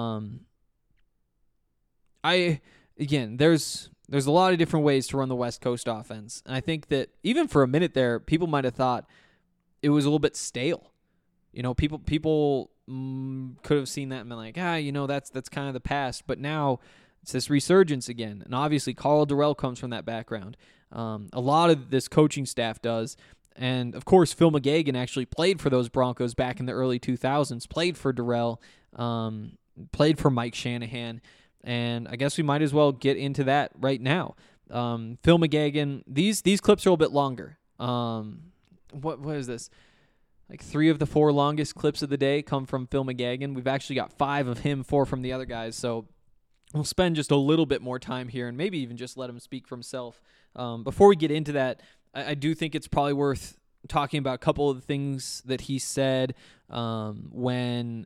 Again, there's a lot of different ways to run the West Coast offense. And I think that even for a minute there, people might have thought it was a little bit stale. People could have seen that and been like, that's kind of the past. But now it's this resurgence again. And obviously, Carl Durrell comes from that background. A lot of this coaching staff does. And, of course, Phil McGagan actually played for those Broncos back in the early 2000s, played for Durrell, played for Mike Shanahan. And I guess we might as well get into that right now. Phil McGagan, these clips are a little bit longer. What is this? Like 3 of the 4 longest clips of the day come from Phil McGagan. We've actually got 5 of him, 4 from the other guys. So we'll spend just a little bit more time here and maybe even just let him speak for himself. Before we get into that, I do think it's probably worth talking about a couple of the things that he said from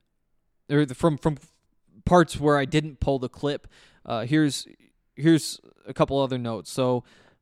parts where I didn't pull the clip. Here's a couple other notes. So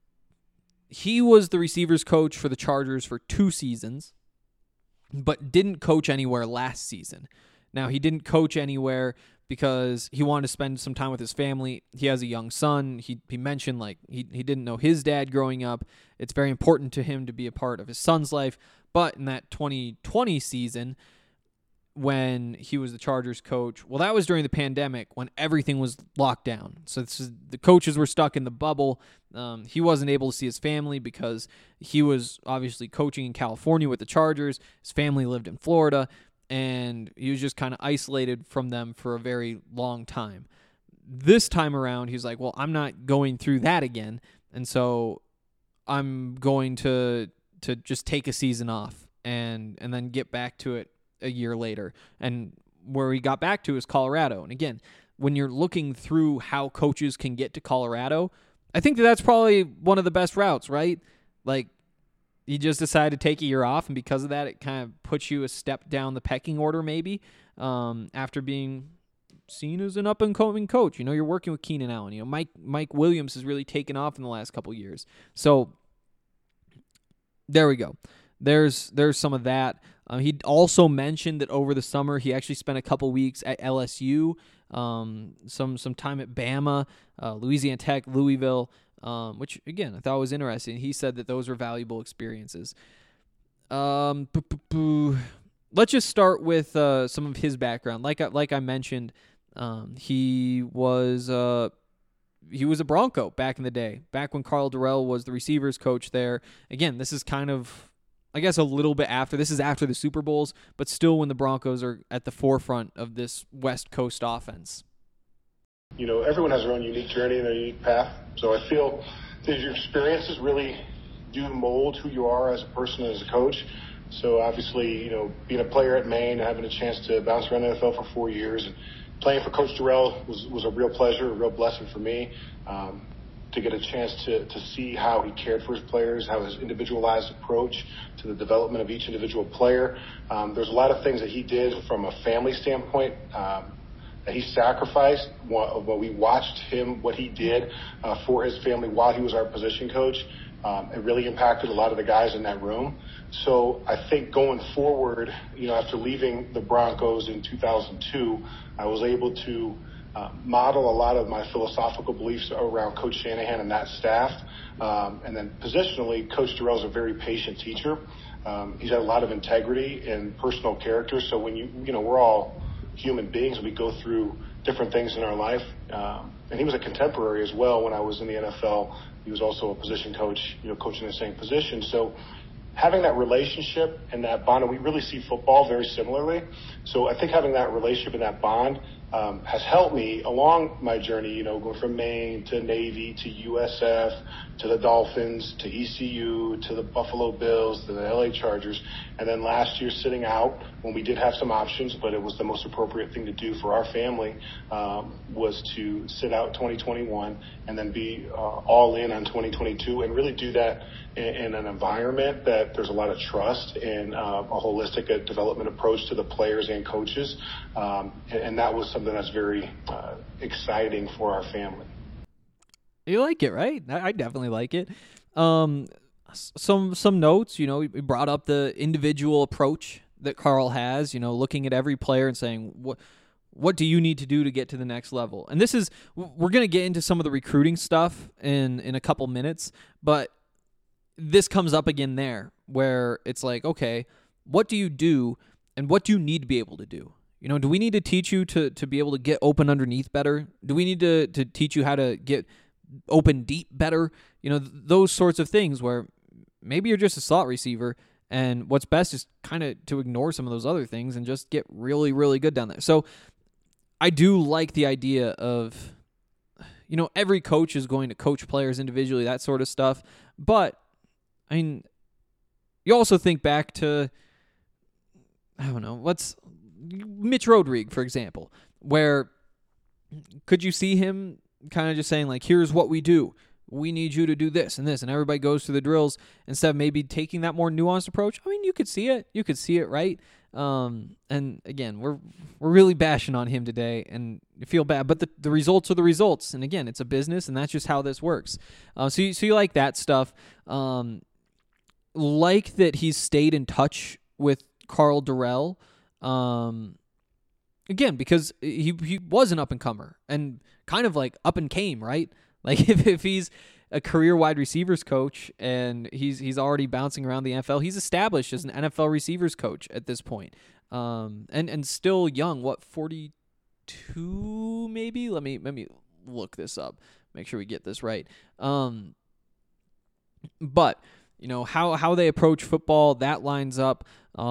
he was the receivers coach for the Chargers for 2 seasons, but didn't coach anywhere last season. Now, he didn't coach anywhere because he wanted to spend some time with his family. He has a young son. He mentioned like he didn't know his dad growing up. It's very important to him to be a part of his son's life. But in that 2020 season, when he was the Chargers coach, well, that was during the pandemic when everything was locked down. So the coaches were stuck in the bubble. He wasn't able to see his family because he was obviously coaching in California with the Chargers. His family lived in Florida, and he was just kind of isolated from them for a very long time. This time around, he's like, well, I'm not going through that again, and so I'm going to just take a season off and then get back to it a year later. And where he got back to is Colorado. And again, when you're looking through how coaches can get to Colorado, I think that's probably one of the best routes, right? Like, you just decide to take a year off, and because of that, it kind of puts you a step down the pecking order maybe, after being seen as an up-and-coming coach. You're working with Keenan Allen. Mike Williams has really taken off in the last couple years. So there we go. There's some of that. He also mentioned that over the summer he actually spent a couple weeks at LSU, some time at Bama, Louisiana Tech, Louisville, which, again, I thought was interesting. He said that those were valuable experiences. Let's just start with some of his background. Like I mentioned, he was a Bronco back in the day, back when Carl Durrell was the receivers coach there. Again, this is kind of, I guess, a little bit after. This is after the Super Bowls, but still when the Broncos are at the forefront of this West Coast offense. Everyone has their own unique journey and their unique path. So I feel that your experiences really do mold who you are as a person and as a coach. So obviously, being a player at Maine, having a chance to bounce around the NFL for 4 years, and playing for Coach Dorrell was a real pleasure, a real blessing for me. To get a chance to see how he cared for his players, how his individualized approach to the development of each individual player. There's a lot of things that he did from a family standpoint that he sacrificed. When we watched him, what he did for his family while he was our position coach, it really impacted a lot of the guys in that room. So I think going forward, after leaving the Broncos in 2002, I was able to model a lot of my philosophical beliefs around Coach Shanahan and that staff. And then positionally, Coach Dorrell's a very patient teacher. He's had a lot of integrity and personal character. So when we're all human beings, we go through different things in our life. And he was a contemporary as well. When I was in the NFL, he was also a position coach, coaching the same position. So having that relationship and that bond, and we really see football very similarly. So I think having that relationship and that bond has helped me along my journey, going from Maine to Navy to USF to the Dolphins to ECU to the Buffalo Bills to the LA Chargers. And then last year sitting out when we did have some options, but it was the most appropriate thing to do for our family, was to sit out 2021 and then be all in on 2022 and really do that in an environment that there's a lot of trust and a holistic development approach to the players and coaches. And that was something that's very exciting for our family. You like it, right? I definitely like it. Some notes, we brought up the individual approach that Carl has, looking at every player and saying, what do you need to do to get to the next level? And we're going to get into some of the recruiting stuff in a couple minutes, but this comes up again there where it's like, okay, what do you do and what do you need to be able to do? Do we need to teach you to be able to get open underneath better? Do we need to teach you how to get open deep better? Those sorts of things where maybe you're just a slot receiver and what's best is kind of to ignore some of those other things and just get really, really good down there. So I do like the idea of, every coach is going to coach players individually, that sort of stuff. But, you also think back to, Mitch Rodrigue, for example, where could you see him kind of just saying, like, here's what we do. We need you to do this and this, and everybody goes through the drills instead of maybe taking that more nuanced approach? You could see it. You could see it, right? And again, we're really bashing on him today, and you feel bad, but the results are the results. And again, it's a business, and that's just how this works. So you like that stuff. Like that he's stayed in touch with Carl Dorrell. Again, because he was an up-and-comer and kind of like up and came, right? Like if he's a career wide receivers coach and he's already bouncing around the NFL, he's established as an NFL receivers coach at this point. And still young, 42 maybe? Let me look this up. Make sure we get this right. But how they approach football, that lines up,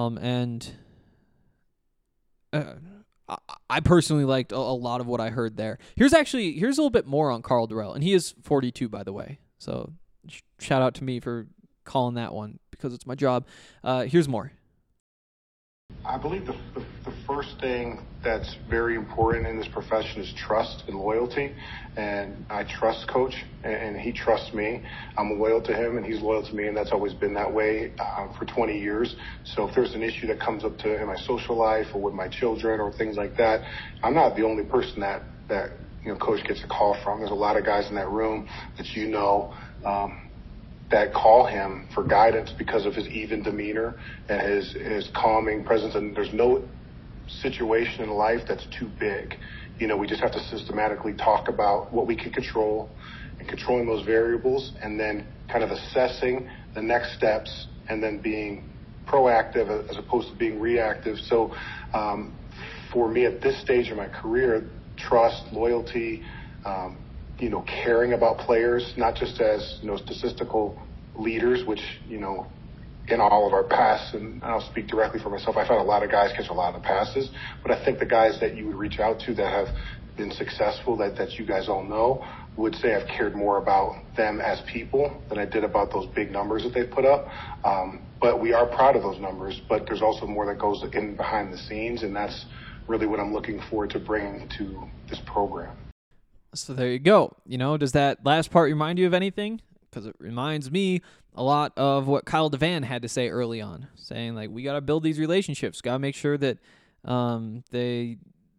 I personally liked a lot of what I heard there. Here's a little bit more on Carl Dorrell, and he is 42, by the way. So shout out to me for calling that one because it's my job. Here's more. I believe the first thing that's very important in this profession is trust and loyalty. And I trust Coach, and he trusts me. I'm loyal to him, and he's loyal to me, and that's always been that way for 20 years. So if there's an issue that comes up in my social life or with my children or things like that, I'm not the only person that Coach gets a call from. There's a lot of guys in that room that that call him for guidance because of his even demeanor and his calming presence. And there's no situation in life that's too big. We just have to systematically talk about what we can control and controlling those variables and then kind of assessing the next steps and then being proactive as opposed to being reactive. So for me at this stage of my career, trust, loyalty, caring about players, not just as, statistical leaders, which, in all of our passes, and I'll speak directly for myself, I've had a lot of guys catch a lot of the passes, but I think the guys that you would reach out to that have been successful that you guys all know, would say I've cared more about them as people than I did about those big numbers that they put up. But we are proud of those numbers, but there's also more that goes in behind the scenes, and that's really what I'm looking forward to bringing to this program. So there you go. Does that last part remind you of anything? Because it reminds me a lot of what Kyle Devan had to say early on, saying, like, we got to build these relationships, got to make sure that they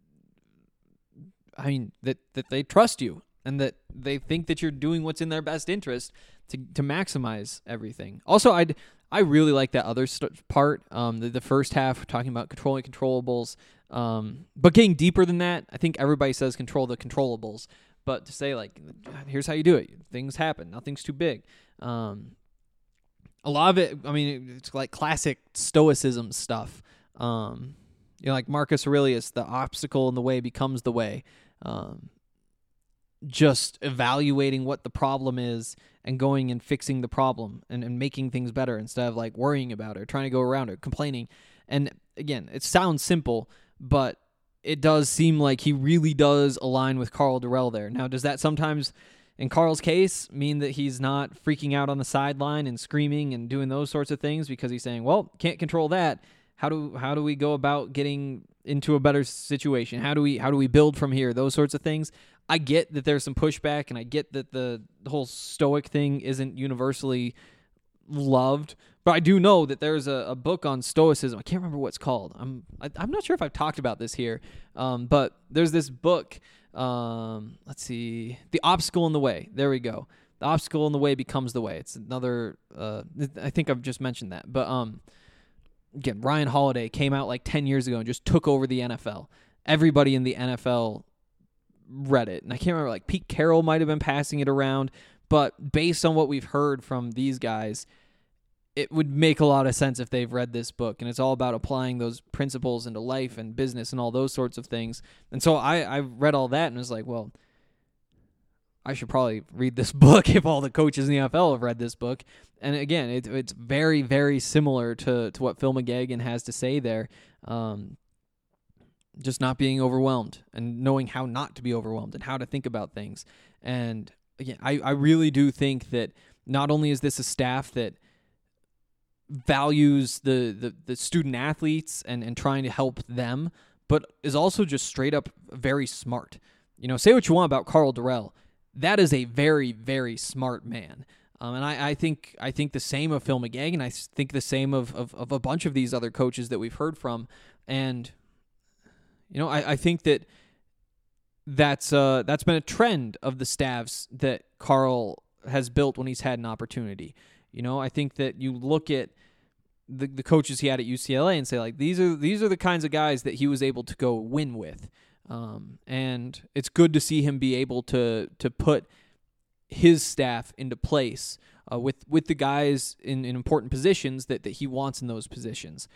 trust you and that they think that you're doing what's in their best interest to maximize everything. Also, I really like that other part, the first half, talking about controlling controllables, but getting deeper than that. I think everybody says control the controllables, but to say, like, here's how you do it. Things happen. Nothing's too big. A lot of it, it's like classic stoicism stuff. Like Marcus Aurelius, the obstacle in the way becomes the way. Just evaluating what the problem is and going and fixing the problem and making things better instead of like worrying about it or trying to go around it, complaining. And again, it sounds simple, but it does seem like he really does align with Karl Dorrell there. Now, does that sometimes, in Karl's case, mean that he's not freaking out on the sideline and screaming and doing those sorts of things because he's saying, well, can't control that. How do we go about getting into a better situation? How do we build from here? Those sorts of things. I get that there's some pushback, and I get that the whole stoic thing isn't universally loved, but I do know that there's a book on stoicism. I can't remember what it's called. I'm not sure if I've talked about this here, but there's this book. Let's see, The Obstacle in the Way. There we go. The Obstacle in the Way becomes the way. It's another. I think I've just mentioned that, but again, Ryan Holiday came out like 10 years ago and just took over the NFL. Everybody in the NFL read it. And I can't remember, like Pete Carroll might have been passing it around, but based on what we've heard from these guys, it would make a lot of sense if they've read this book. And it's all about applying those principles into life and business and all those sorts of things. And so I read all that and was like, well, I should probably read this book if all the coaches in the NFL have read this book. And again, it's very, very similar to what Phil McGagan has to say there. Just not being overwhelmed and knowing how not to be overwhelmed and how to think about things. And again, I really do think that not only is this a staff that values the student athletes and trying to help them, but is also just straight up very smart. Say what you want about Karl Dorrell. That is a very, very smart man. And I think the same of Phil McGagan. I think the same of a bunch of these other coaches that we've heard from. And I think that's been a trend of the staffs that Karl has built when he's had an opportunity. I think that you look at the coaches he had at UCLA and say, like, these are the kinds of guys that he was able to go win with. And it's good to see him be able to put his staff into place with the guys in important positions that he wants in those positions.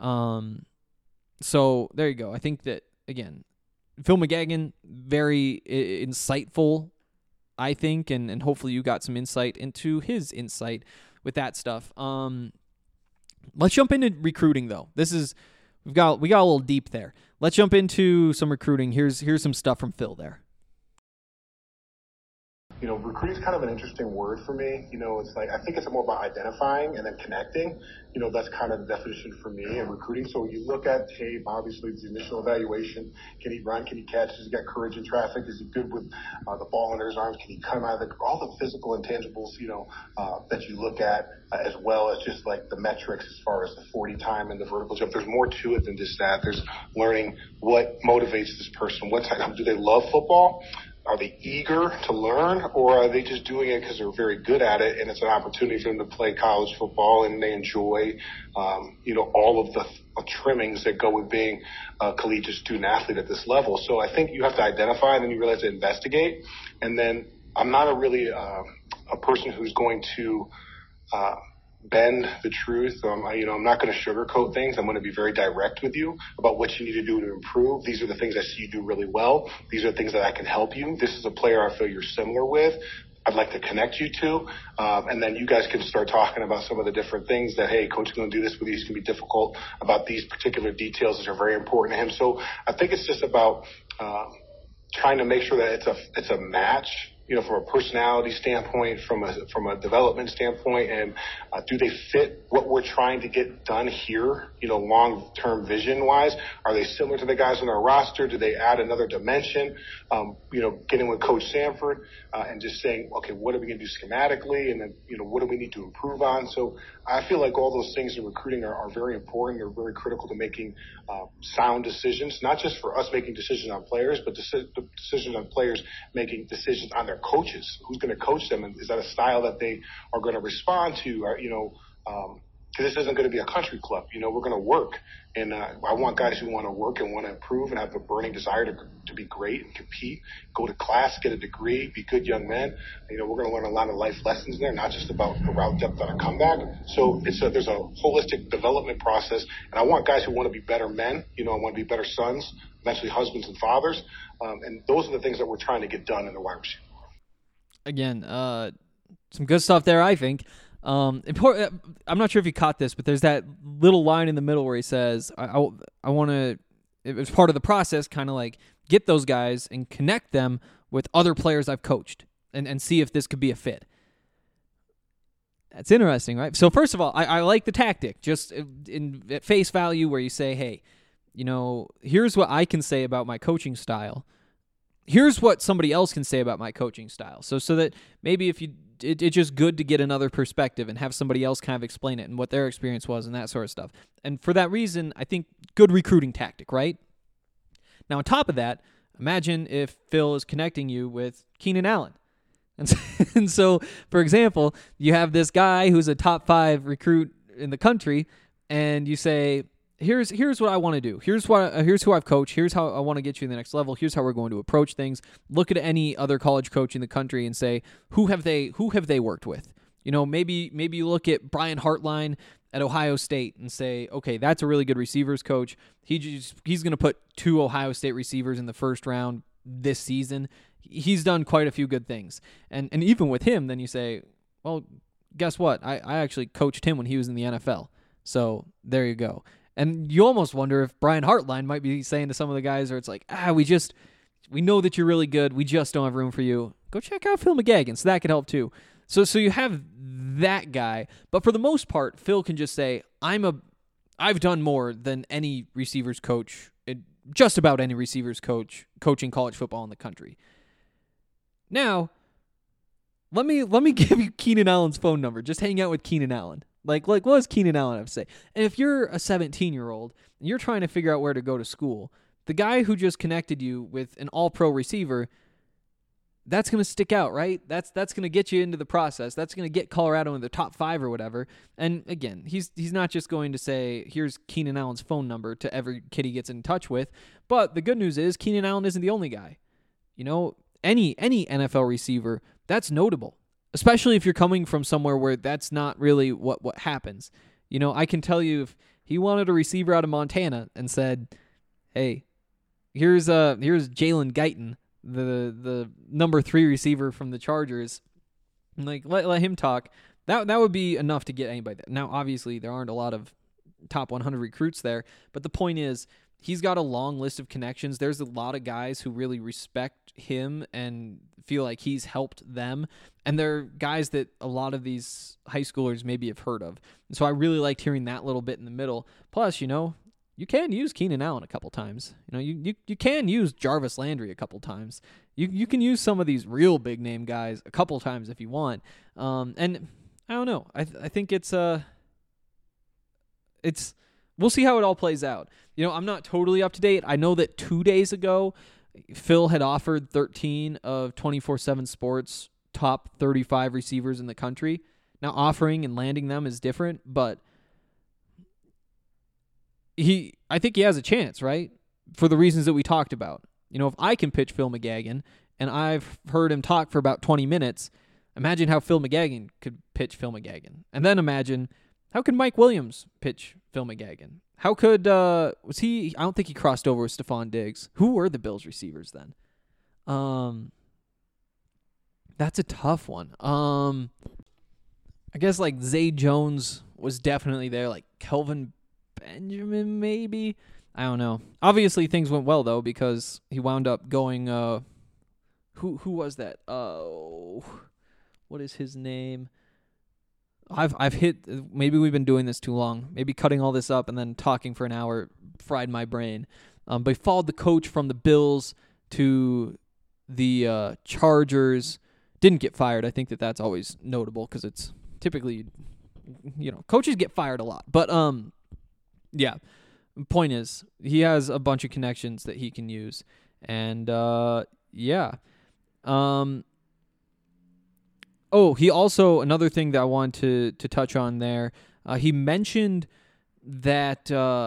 So there you go. I think that, again, Phil McGagan, very insightful, I think, and hopefully you got some insight into his insight with that stuff. Let's jump into recruiting, though. We got a little deep there. Let's jump into some recruiting. Here's some stuff from Phil there. Recruiting is kind of an interesting word for me. It's like, I think it's more about identifying and then connecting. That's kind of the definition for me in recruiting. So when you look at tape, obviously the initial evaluation, can he run? Can he catch? Does he got courage in traffic? Is he good with the ball under his arms? Can he come out of all the physical intangibles, that you look at, as well as just like the metrics as far as the 40 time and the vertical jump. There's more to it than just that. There's learning what motivates this person. What type, do they love football? Are they eager to learn, or are they just doing it because they're very good at it and it's an opportunity for them to play college football and they enjoy, all of the trimmings that go with being a collegiate student athlete at this level. So I think you have to identify and then you realize to investigate. And then I'm not a person who's going to bend the truth. I'm not going to sugarcoat things. I'm going to be very direct with you about what you need to do to improve. These are the things I see you do really well. These are the things that I can help you. This is a player I feel you're similar with. I'd like to connect you to. And then you guys can start talking about some of the different things that, hey, coach is going to do this with you. It's going to be difficult about these particular details that are very important to him. So I think it's just about trying to make sure that it's a match, from a personality standpoint, from a development standpoint, and do they fit what we're trying to get done here, long-term vision-wise? Are they similar to the guys on our roster? Do they add another dimension? Getting with Coach Sanford and just saying, okay, what are we going to do schematically? And then, what do we need to improve on? So I feel like all those things in recruiting are very important. They're very critical to making sound decisions, not just for us making decisions on players, but decisions on players making decisions on their coaches. Who's going to coach them? And is that a style that they are going to respond to? Or, because this isn't going to be a country club. We're going to work. And I want guys who want to work and want to improve and have a burning desire to be great and compete, go to class, get a degree, be good young men. We're going to learn a lot of life lessons there, not just about the route depth on a comeback. So there's a holistic development process. And I want guys who want to be better men. I want to be better sons, eventually husbands and fathers. And those are the things that we're trying to get done in the wide receiver. Again, some good stuff there, I think. I'm not sure if you caught this, but there's that little line in the middle where he says, I want to, it was part of the process, kind of like get those guys and connect them with other players I've coached and see if this could be a fit. That's interesting, right? So first of all, I like the tactic, just at face value, where you say, hey, here's what I can say about my coaching style. Here's what somebody else can say about my coaching style. So that maybe if it's just good to get another perspective and have somebody else kind of explain it and what their experience was and that sort of stuff. And for that reason, I think good recruiting tactic, right? Now, on top of that, imagine if Phil is connecting you with Keenan Allen. And so, for example, you have this guy who's a top 5 recruit in the country, and you say, Here's what I want to do. Here's who I've coached. Here's how I want to get you to the next level. Here's how we're going to approach things. Look at any other college coach in the country and say, who have they worked with? Maybe you look at Brian Hartline at Ohio State and say, okay, that's a really good receivers coach. He's going to put 2 Ohio State receivers in the first round this season. He's done quite a few good things. And even with him, then you say, well, guess what? I actually coached him when he was in the NFL. So there you go. And you almost wonder if Brian Hartline might be saying to some of the guys where it's like, we know that you're really good. We just don't have room for you. Go check out Phil McGagan. So that could help too. So you have that guy. But for the most part, Phil can just say, I've done more than any receivers coach, just about any receivers coach coaching college football in the country. Now, let me give you Keenan Allen's phone number. Just hang out with Keenan Allen. Like what does Keenan Allen have to say? And if you're a 17-year-old and you're trying to figure out where to go to school, the guy who just connected you with an all-pro receiver, that's going to stick out, right? That's going to get you into the process. That's going to get Colorado in the top 5 or whatever. And again, he's not just going to say, here's Keenan Allen's phone number to every kid he gets in touch with. But the good news is Keenan Allen isn't the only guy. Any NFL receiver, that's notable. Especially if you're coming from somewhere where that's not really what happens. I can tell you if he wanted a receiver out of Montana and said, hey, here's Jalen Guyton, the number 3 receiver from the Chargers, like let him talk, that would be enough to get anybody. Now, obviously, there aren't a lot of top 100 recruits there, but the point is, he's got a long list of connections. There's a lot of guys who really respect him and feel like he's helped them. And they're guys that a lot of these high schoolers maybe have heard of. And so I really liked hearing that little bit in the middle. Plus, you can use Keenan Allen a couple times. You can use Jarvis Landry a couple times. You can use some of these real big name guys a couple times if you want. And I don't know. I think it's we'll see how it all plays out. I'm not totally up to date. I know that 2 days ago, Phil had offered 13 of 24/7 Sports top 35 receivers in the country. Now, offering and landing them is different, but I think he has a chance, right? For the reasons that we talked about. If I can pitch Phil McGagan, and I've heard him talk for about 20 minutes, imagine how Phil McGagan could pitch Phil McGagan. And then imagine, how could Mike Williams pitch Phil McGagan? How could, I don't think he crossed over with Stephon Diggs. Who were the Bills receivers then? That's a tough one. I guess like Zay Jones was definitely there, like Kelvin Benjamin maybe. I don't know. Obviously, things went well though because he wound up going. Who was that? Oh, what is his name? I've hit. Maybe we've been doing this too long. Maybe cutting all this up and then talking for an hour fried my brain. But he followed the coach from the Bills to the Chargers. Didn't get fired. I think that's always notable because it's typically, coaches get fired a lot. But yeah. Point is, he has a bunch of connections that he can use, and yeah. Oh, he also, another thing that I wanted to touch on there, he mentioned that,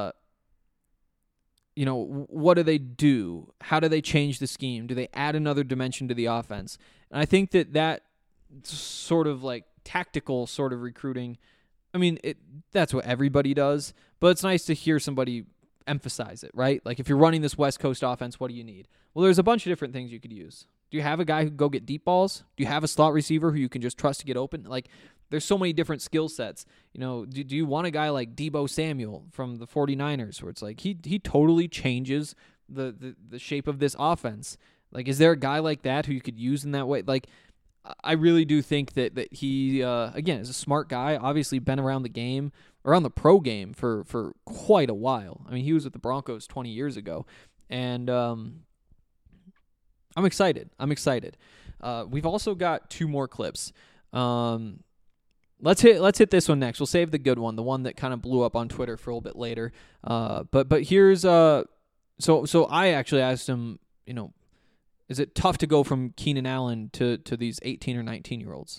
what do they do? How do they change the scheme? Do they add another dimension to the offense? And I think that sort of like tactical sort of recruiting, I mean, that's what everybody does, but it's nice to hear somebody emphasize it, right? Like if you're running this West Coast offense, what do you need? Well, there's a bunch of different things you could use. Do you have a guy who can go get deep balls? Do you have a slot receiver who you can just trust to get open? Like there's so many different skill sets. Do you want a guy like Deebo Samuel from the 49ers where it's like he totally changes the shape of this offense? Like is there a guy like that who you could use in that way? Like I really do think that he, again, is a smart guy, obviously been around the game, around the pro game for quite a while. I mean, he was with the Broncos 20 years ago, and I'm excited. We've also got 2 more clips. Let's hit this one next. We'll save the good one, the one that kind of blew up on Twitter for a little bit later. But here's, so I actually asked him, is it tough to go from Keenan Allen to these 18 or 19-year-olds?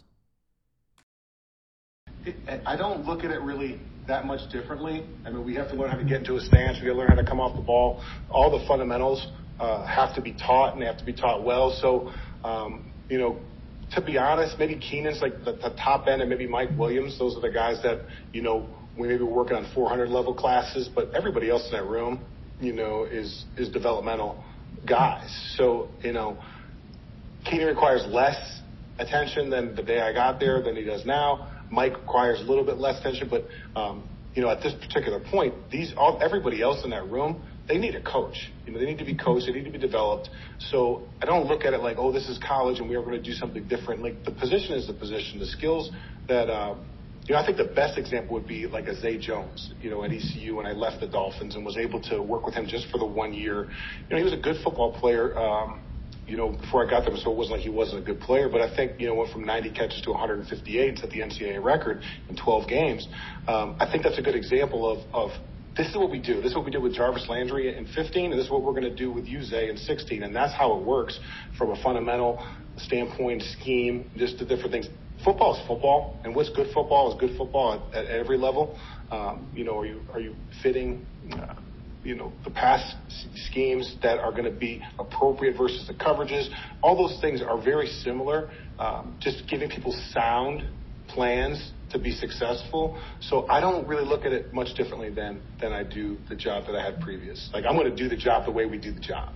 I don't look at it really that much differently. I mean, we have to learn how to get into a stance. We got to learn how to come off the ball. All the fundamentals have to be taught, and they have to be taught well. So, to be honest, maybe Keenan's like the top end, and maybe Mike Williams. Those are the guys that, we maybe were working on 400-level classes, but everybody else in that room, is developmental guys. So, Keenan requires less attention than the day I got there than he does now. Mike requires a little bit less attention, but, at this particular point, everybody else in that room, they need a coach. They need to be coached. They need to be developed. So I don't look at it like, oh, this is college and we are going to do something different. Like the position is the position. The skills that, I think the best example would be like a Zay Jones, at ECU when I left the Dolphins and was able to work with him just for the 1 year. He was a good football player, before I got there, so it wasn't like he wasn't a good player. But I think, went from 90 catches to 158, set the NCAA record in 12 games. I think that's a good example of this is what we do. This is what we did with Jarvis Landry in 15, and this is what we're going to do with you, Zay, in 16. And that's how it works from a fundamental standpoint, scheme, just the different things. Football is football, and what's good football is good football at every level. Are you fitting, the pass schemes that are going to be appropriate versus the coverages? All those things are very similar. Just giving people sound plans to be successful. So I don't really look at it much differently than I do the job that I had previous. Like I'm going to do the job the way we do the job.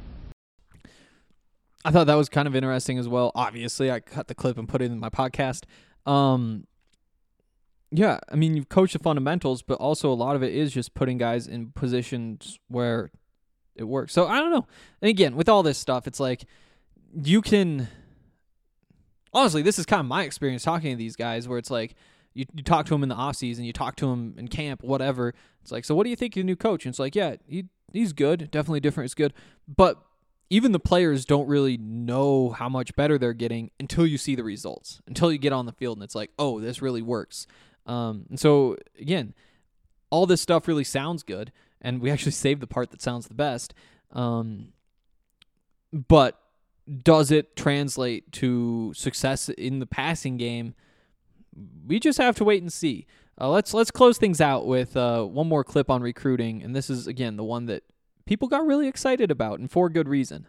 I thought that was kind of interesting as well. Obviously, I cut the clip and put it in my podcast. Yeah, I mean, you've coached the fundamentals, but also a lot of it is just putting guys in positions where it works. So I don't know. And again, with all this stuff, it's like you can – honestly, this is kind of my experience talking to these guys where it's like you talk to them in the offseason, you talk to them in camp, whatever. It's like, so what do you think of the new coach? And it's like, yeah, he's good, definitely different, it's good. But even the players don't really know how much better they're getting until you see the results, until you get on the field and it's like, oh, this really works. And so, again, all this stuff really sounds good, and we actually saved the part that sounds the best. But does it translate to success in the passing game? We just have to wait and see. Let's close things out with one more clip on recruiting, and this is, again, the one that people got really excited about, and for good reason.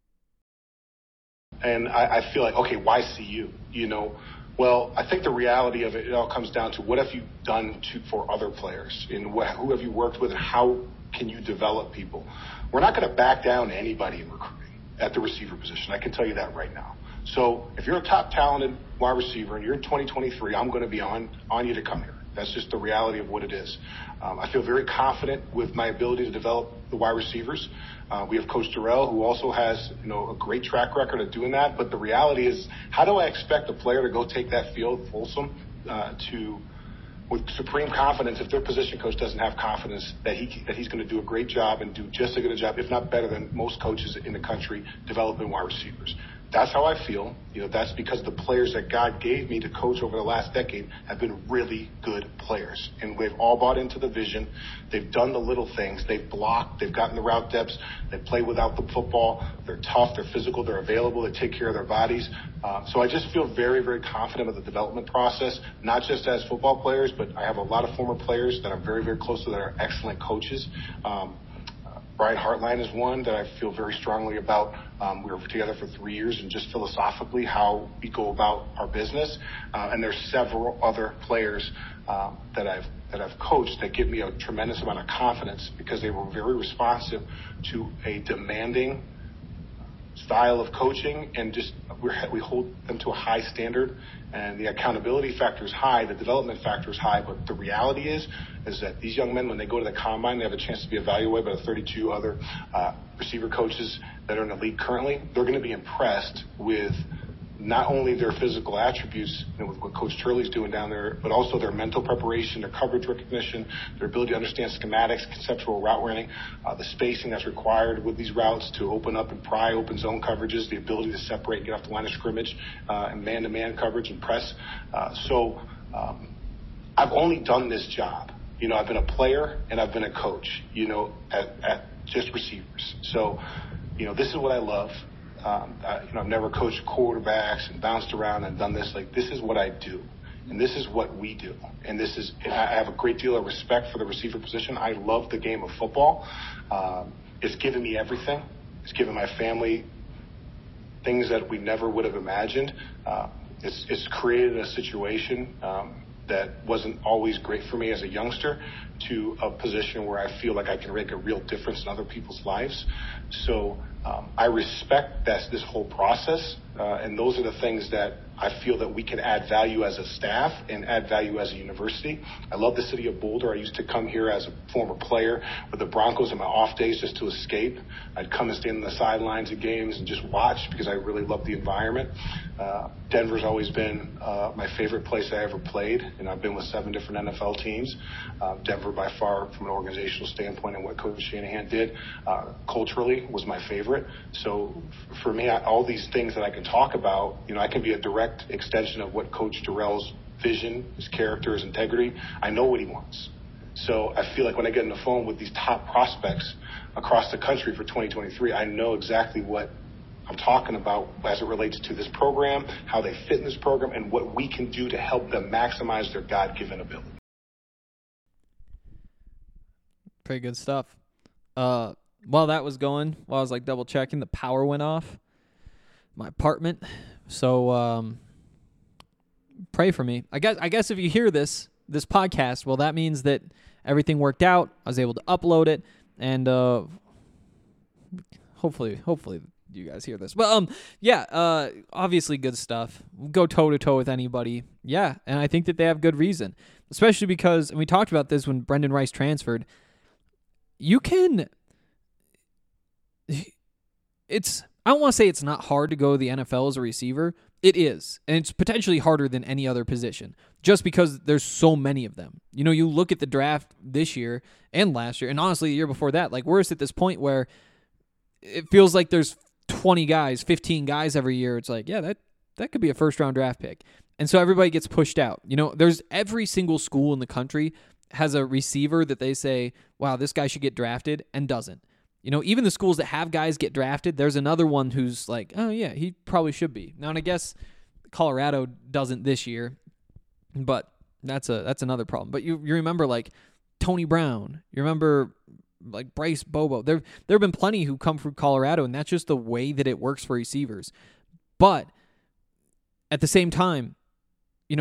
And I feel like, okay, why CU? Well, I think the reality of it all comes down to what have you done for other players, and who have you worked with, and how can you develop people? We're not going to back down to anybody in recruiting at the receiver position. I can tell you that right now. So if you're a top talented wide receiver and you're in 2023, I'm going to be on you to come here. That's just the reality of what it is. I feel very confident with my ability to develop the wide receivers. We have Coach Terrell, who also has, a great track record of doing that. But the reality is, how do I expect a player to go take that field, Folsom, with supreme confidence if their position coach doesn't have confidence that he's going to do a great job and do just as good a job, if not better than most coaches in the country, developing wide receivers? That's how I feel. That's because the players that God gave me to coach over the last decade have been really good players. And they've all bought into the vision. They've done the little things. They've blocked. They've gotten the route depths. They play without the football. They're tough. They're physical. They're available. They take care of their bodies. So I just feel very, very confident with the development process, not just as football players, but I have a lot of former players that I'm very, very close to that are excellent coaches. Brian Hartline is one that I feel very strongly about. We were together for 3 years, and just philosophically how we go about our business. And there's several other players that I've coached that give me a tremendous amount of confidence because they were very responsive to a demanding style of coaching, and just we hold them to a high standard, and the accountability factor is high, the development factor is high, but the reality is that these young men, when they go to the combine, they have a chance to be evaluated by the 32 other receiver coaches that are in the league currently. They're going to be impressed with not only their physical attributes, with what Coach Turley's doing down there, but also their mental preparation, their coverage recognition, their ability to understand schematics, conceptual route running, the spacing that's required with these routes to open up and pry open zone coverages, the ability to separate and get off the line of scrimmage, and man-to-man coverage and press. So I've only done this job. I've been a player and I've been a coach, at just receivers. So, this is what I love. I've never coached quarterbacks and bounced around and done this. This is what I do, and this is what we do. And I have a great deal of respect for the receiver position. I love the game of football. It's given me everything. It's given my family things that we never would have imagined. It's created a situation that wasn't always great for me as a youngster to a position where I feel like I can make a real difference in other people's lives. So I respect this whole process, and those are the things that I feel that we can add value as a staff and add value as a university. I love the city of Boulder. I used to come here as a former player with the Broncos on my off days just to escape. I'd come and stand on the sidelines of games and just watch because I really love the environment. Denver's always been my favorite place I ever played, and I've been with 7 different NFL teams. Denver, by far, from an organizational standpoint and what Coach Shanahan did, culturally was my favorite. So for me, all these things that I can talk about, I can be a direct extension of what Coach Terrell's vision, his character, his integrity. I know what he wants. So I feel like when I get on the phone with these top prospects across the country for 2023, I know exactly what I'm talking about as it relates to this program, how they fit in this program, and what we can do to help them maximize their God-given ability. Pretty good stuff. While that was going, while I was double checking, the power went off my apartment. So pray for me. I guess if you hear this podcast, well, that means that everything worked out. I was able to upload it, and hopefully you guys hear this. But obviously good stuff. Go toe to toe with anybody. Yeah, and I think that they have good reason, especially because, and we talked about this when Brendan Rice transferred. I don't want to say it's not hard to go to the NFL as a receiver. It is, and it's potentially harder than any other position just because there's so many of them. You look at the draft this year and last year, and honestly the year before that, we're just at this point where it feels like there's 20 guys, 15 guys every year. It's that could be a first-round draft pick. And so everybody gets pushed out. There's every single school in the country has a receiver that they say, wow, this guy should get drafted, and doesn't. Even the schools that have guys get drafted, there's another one who's like, oh, yeah, he probably should be. Now, and I guess Colorado doesn't this year, but that's another problem. But you remember, Tony Brown. You remember, Bryce Bobo. There have been plenty who come from Colorado, and that's just the way that it works for receivers. But at the same time, you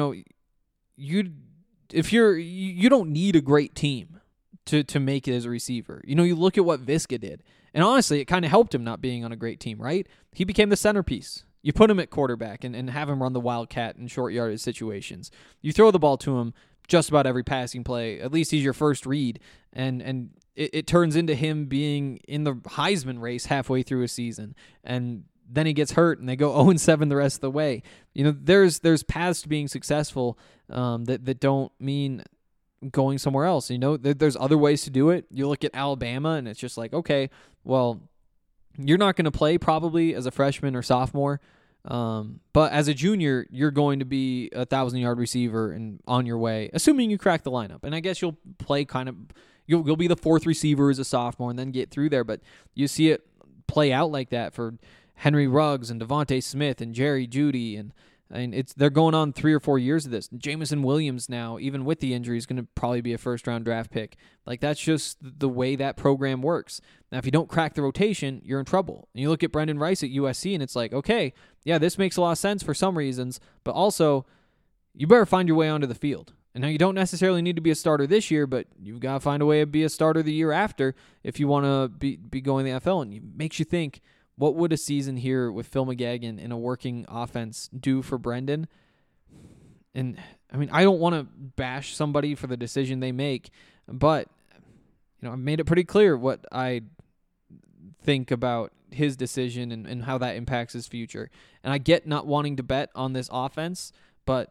don't need a great team to make it as a receiver. You look at what Viska did, and honestly, it kind of helped him not being on a great team, right? He became the centerpiece. You put him at quarterback and have him run the wildcat in short yardage situations. You throw the ball to him just about every passing play. At least he's your first read, and it turns into him being in the Heisman race halfway through a season, and then he gets hurt, and they go 0-7 the rest of the way. There's paths to being successful that don't mean going somewhere else. There's other ways to do it. You look at Alabama, and it's just like, okay, well, you're not going to play probably as a freshman or sophomore, but as a junior, you're going to be a 1,000-yard receiver and on your way, assuming you crack the lineup. And I guess you'll play you'll be the fourth receiver as a sophomore and then get through there. But you see it play out like that for Henry Ruggs and Devontae Smith and Jerry Jeudy, and they're going on 3 or 4 years of this. Jameson Williams now, even with the injury, is going to probably be a first-round draft pick. Like, that's just the way that program works. Now, if you don't crack the rotation, you're in trouble. And you look at Brendan Rice at USC, and it's like, okay, yeah, this makes a lot of sense for some reasons, but also you better find your way onto the field. And now you don't necessarily need to be a starter this year, but you've got to find a way to be a starter the year after if you want to be going to the NFL. And it makes you think, what would a season here with Phil McGagan in a working offense do for Brendan? And, I mean, I don't want to bash somebody for the decision they make, but, I've made it pretty clear what I think about his decision and how that impacts his future. And I get not wanting to bet on this offense, but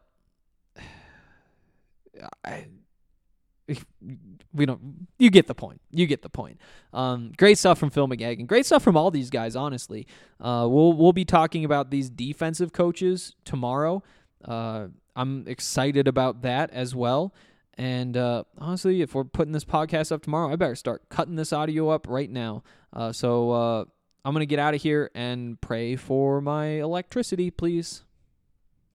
you get the point. Great stuff from Phil McGagan. Great stuff from all these guys, honestly. We'll be talking about these defensive coaches tomorrow. I'm excited about that as well. And honestly, if we're putting this podcast up tomorrow, I better start cutting this audio up right now. So I'm going to get out of here and pray for my electricity, please.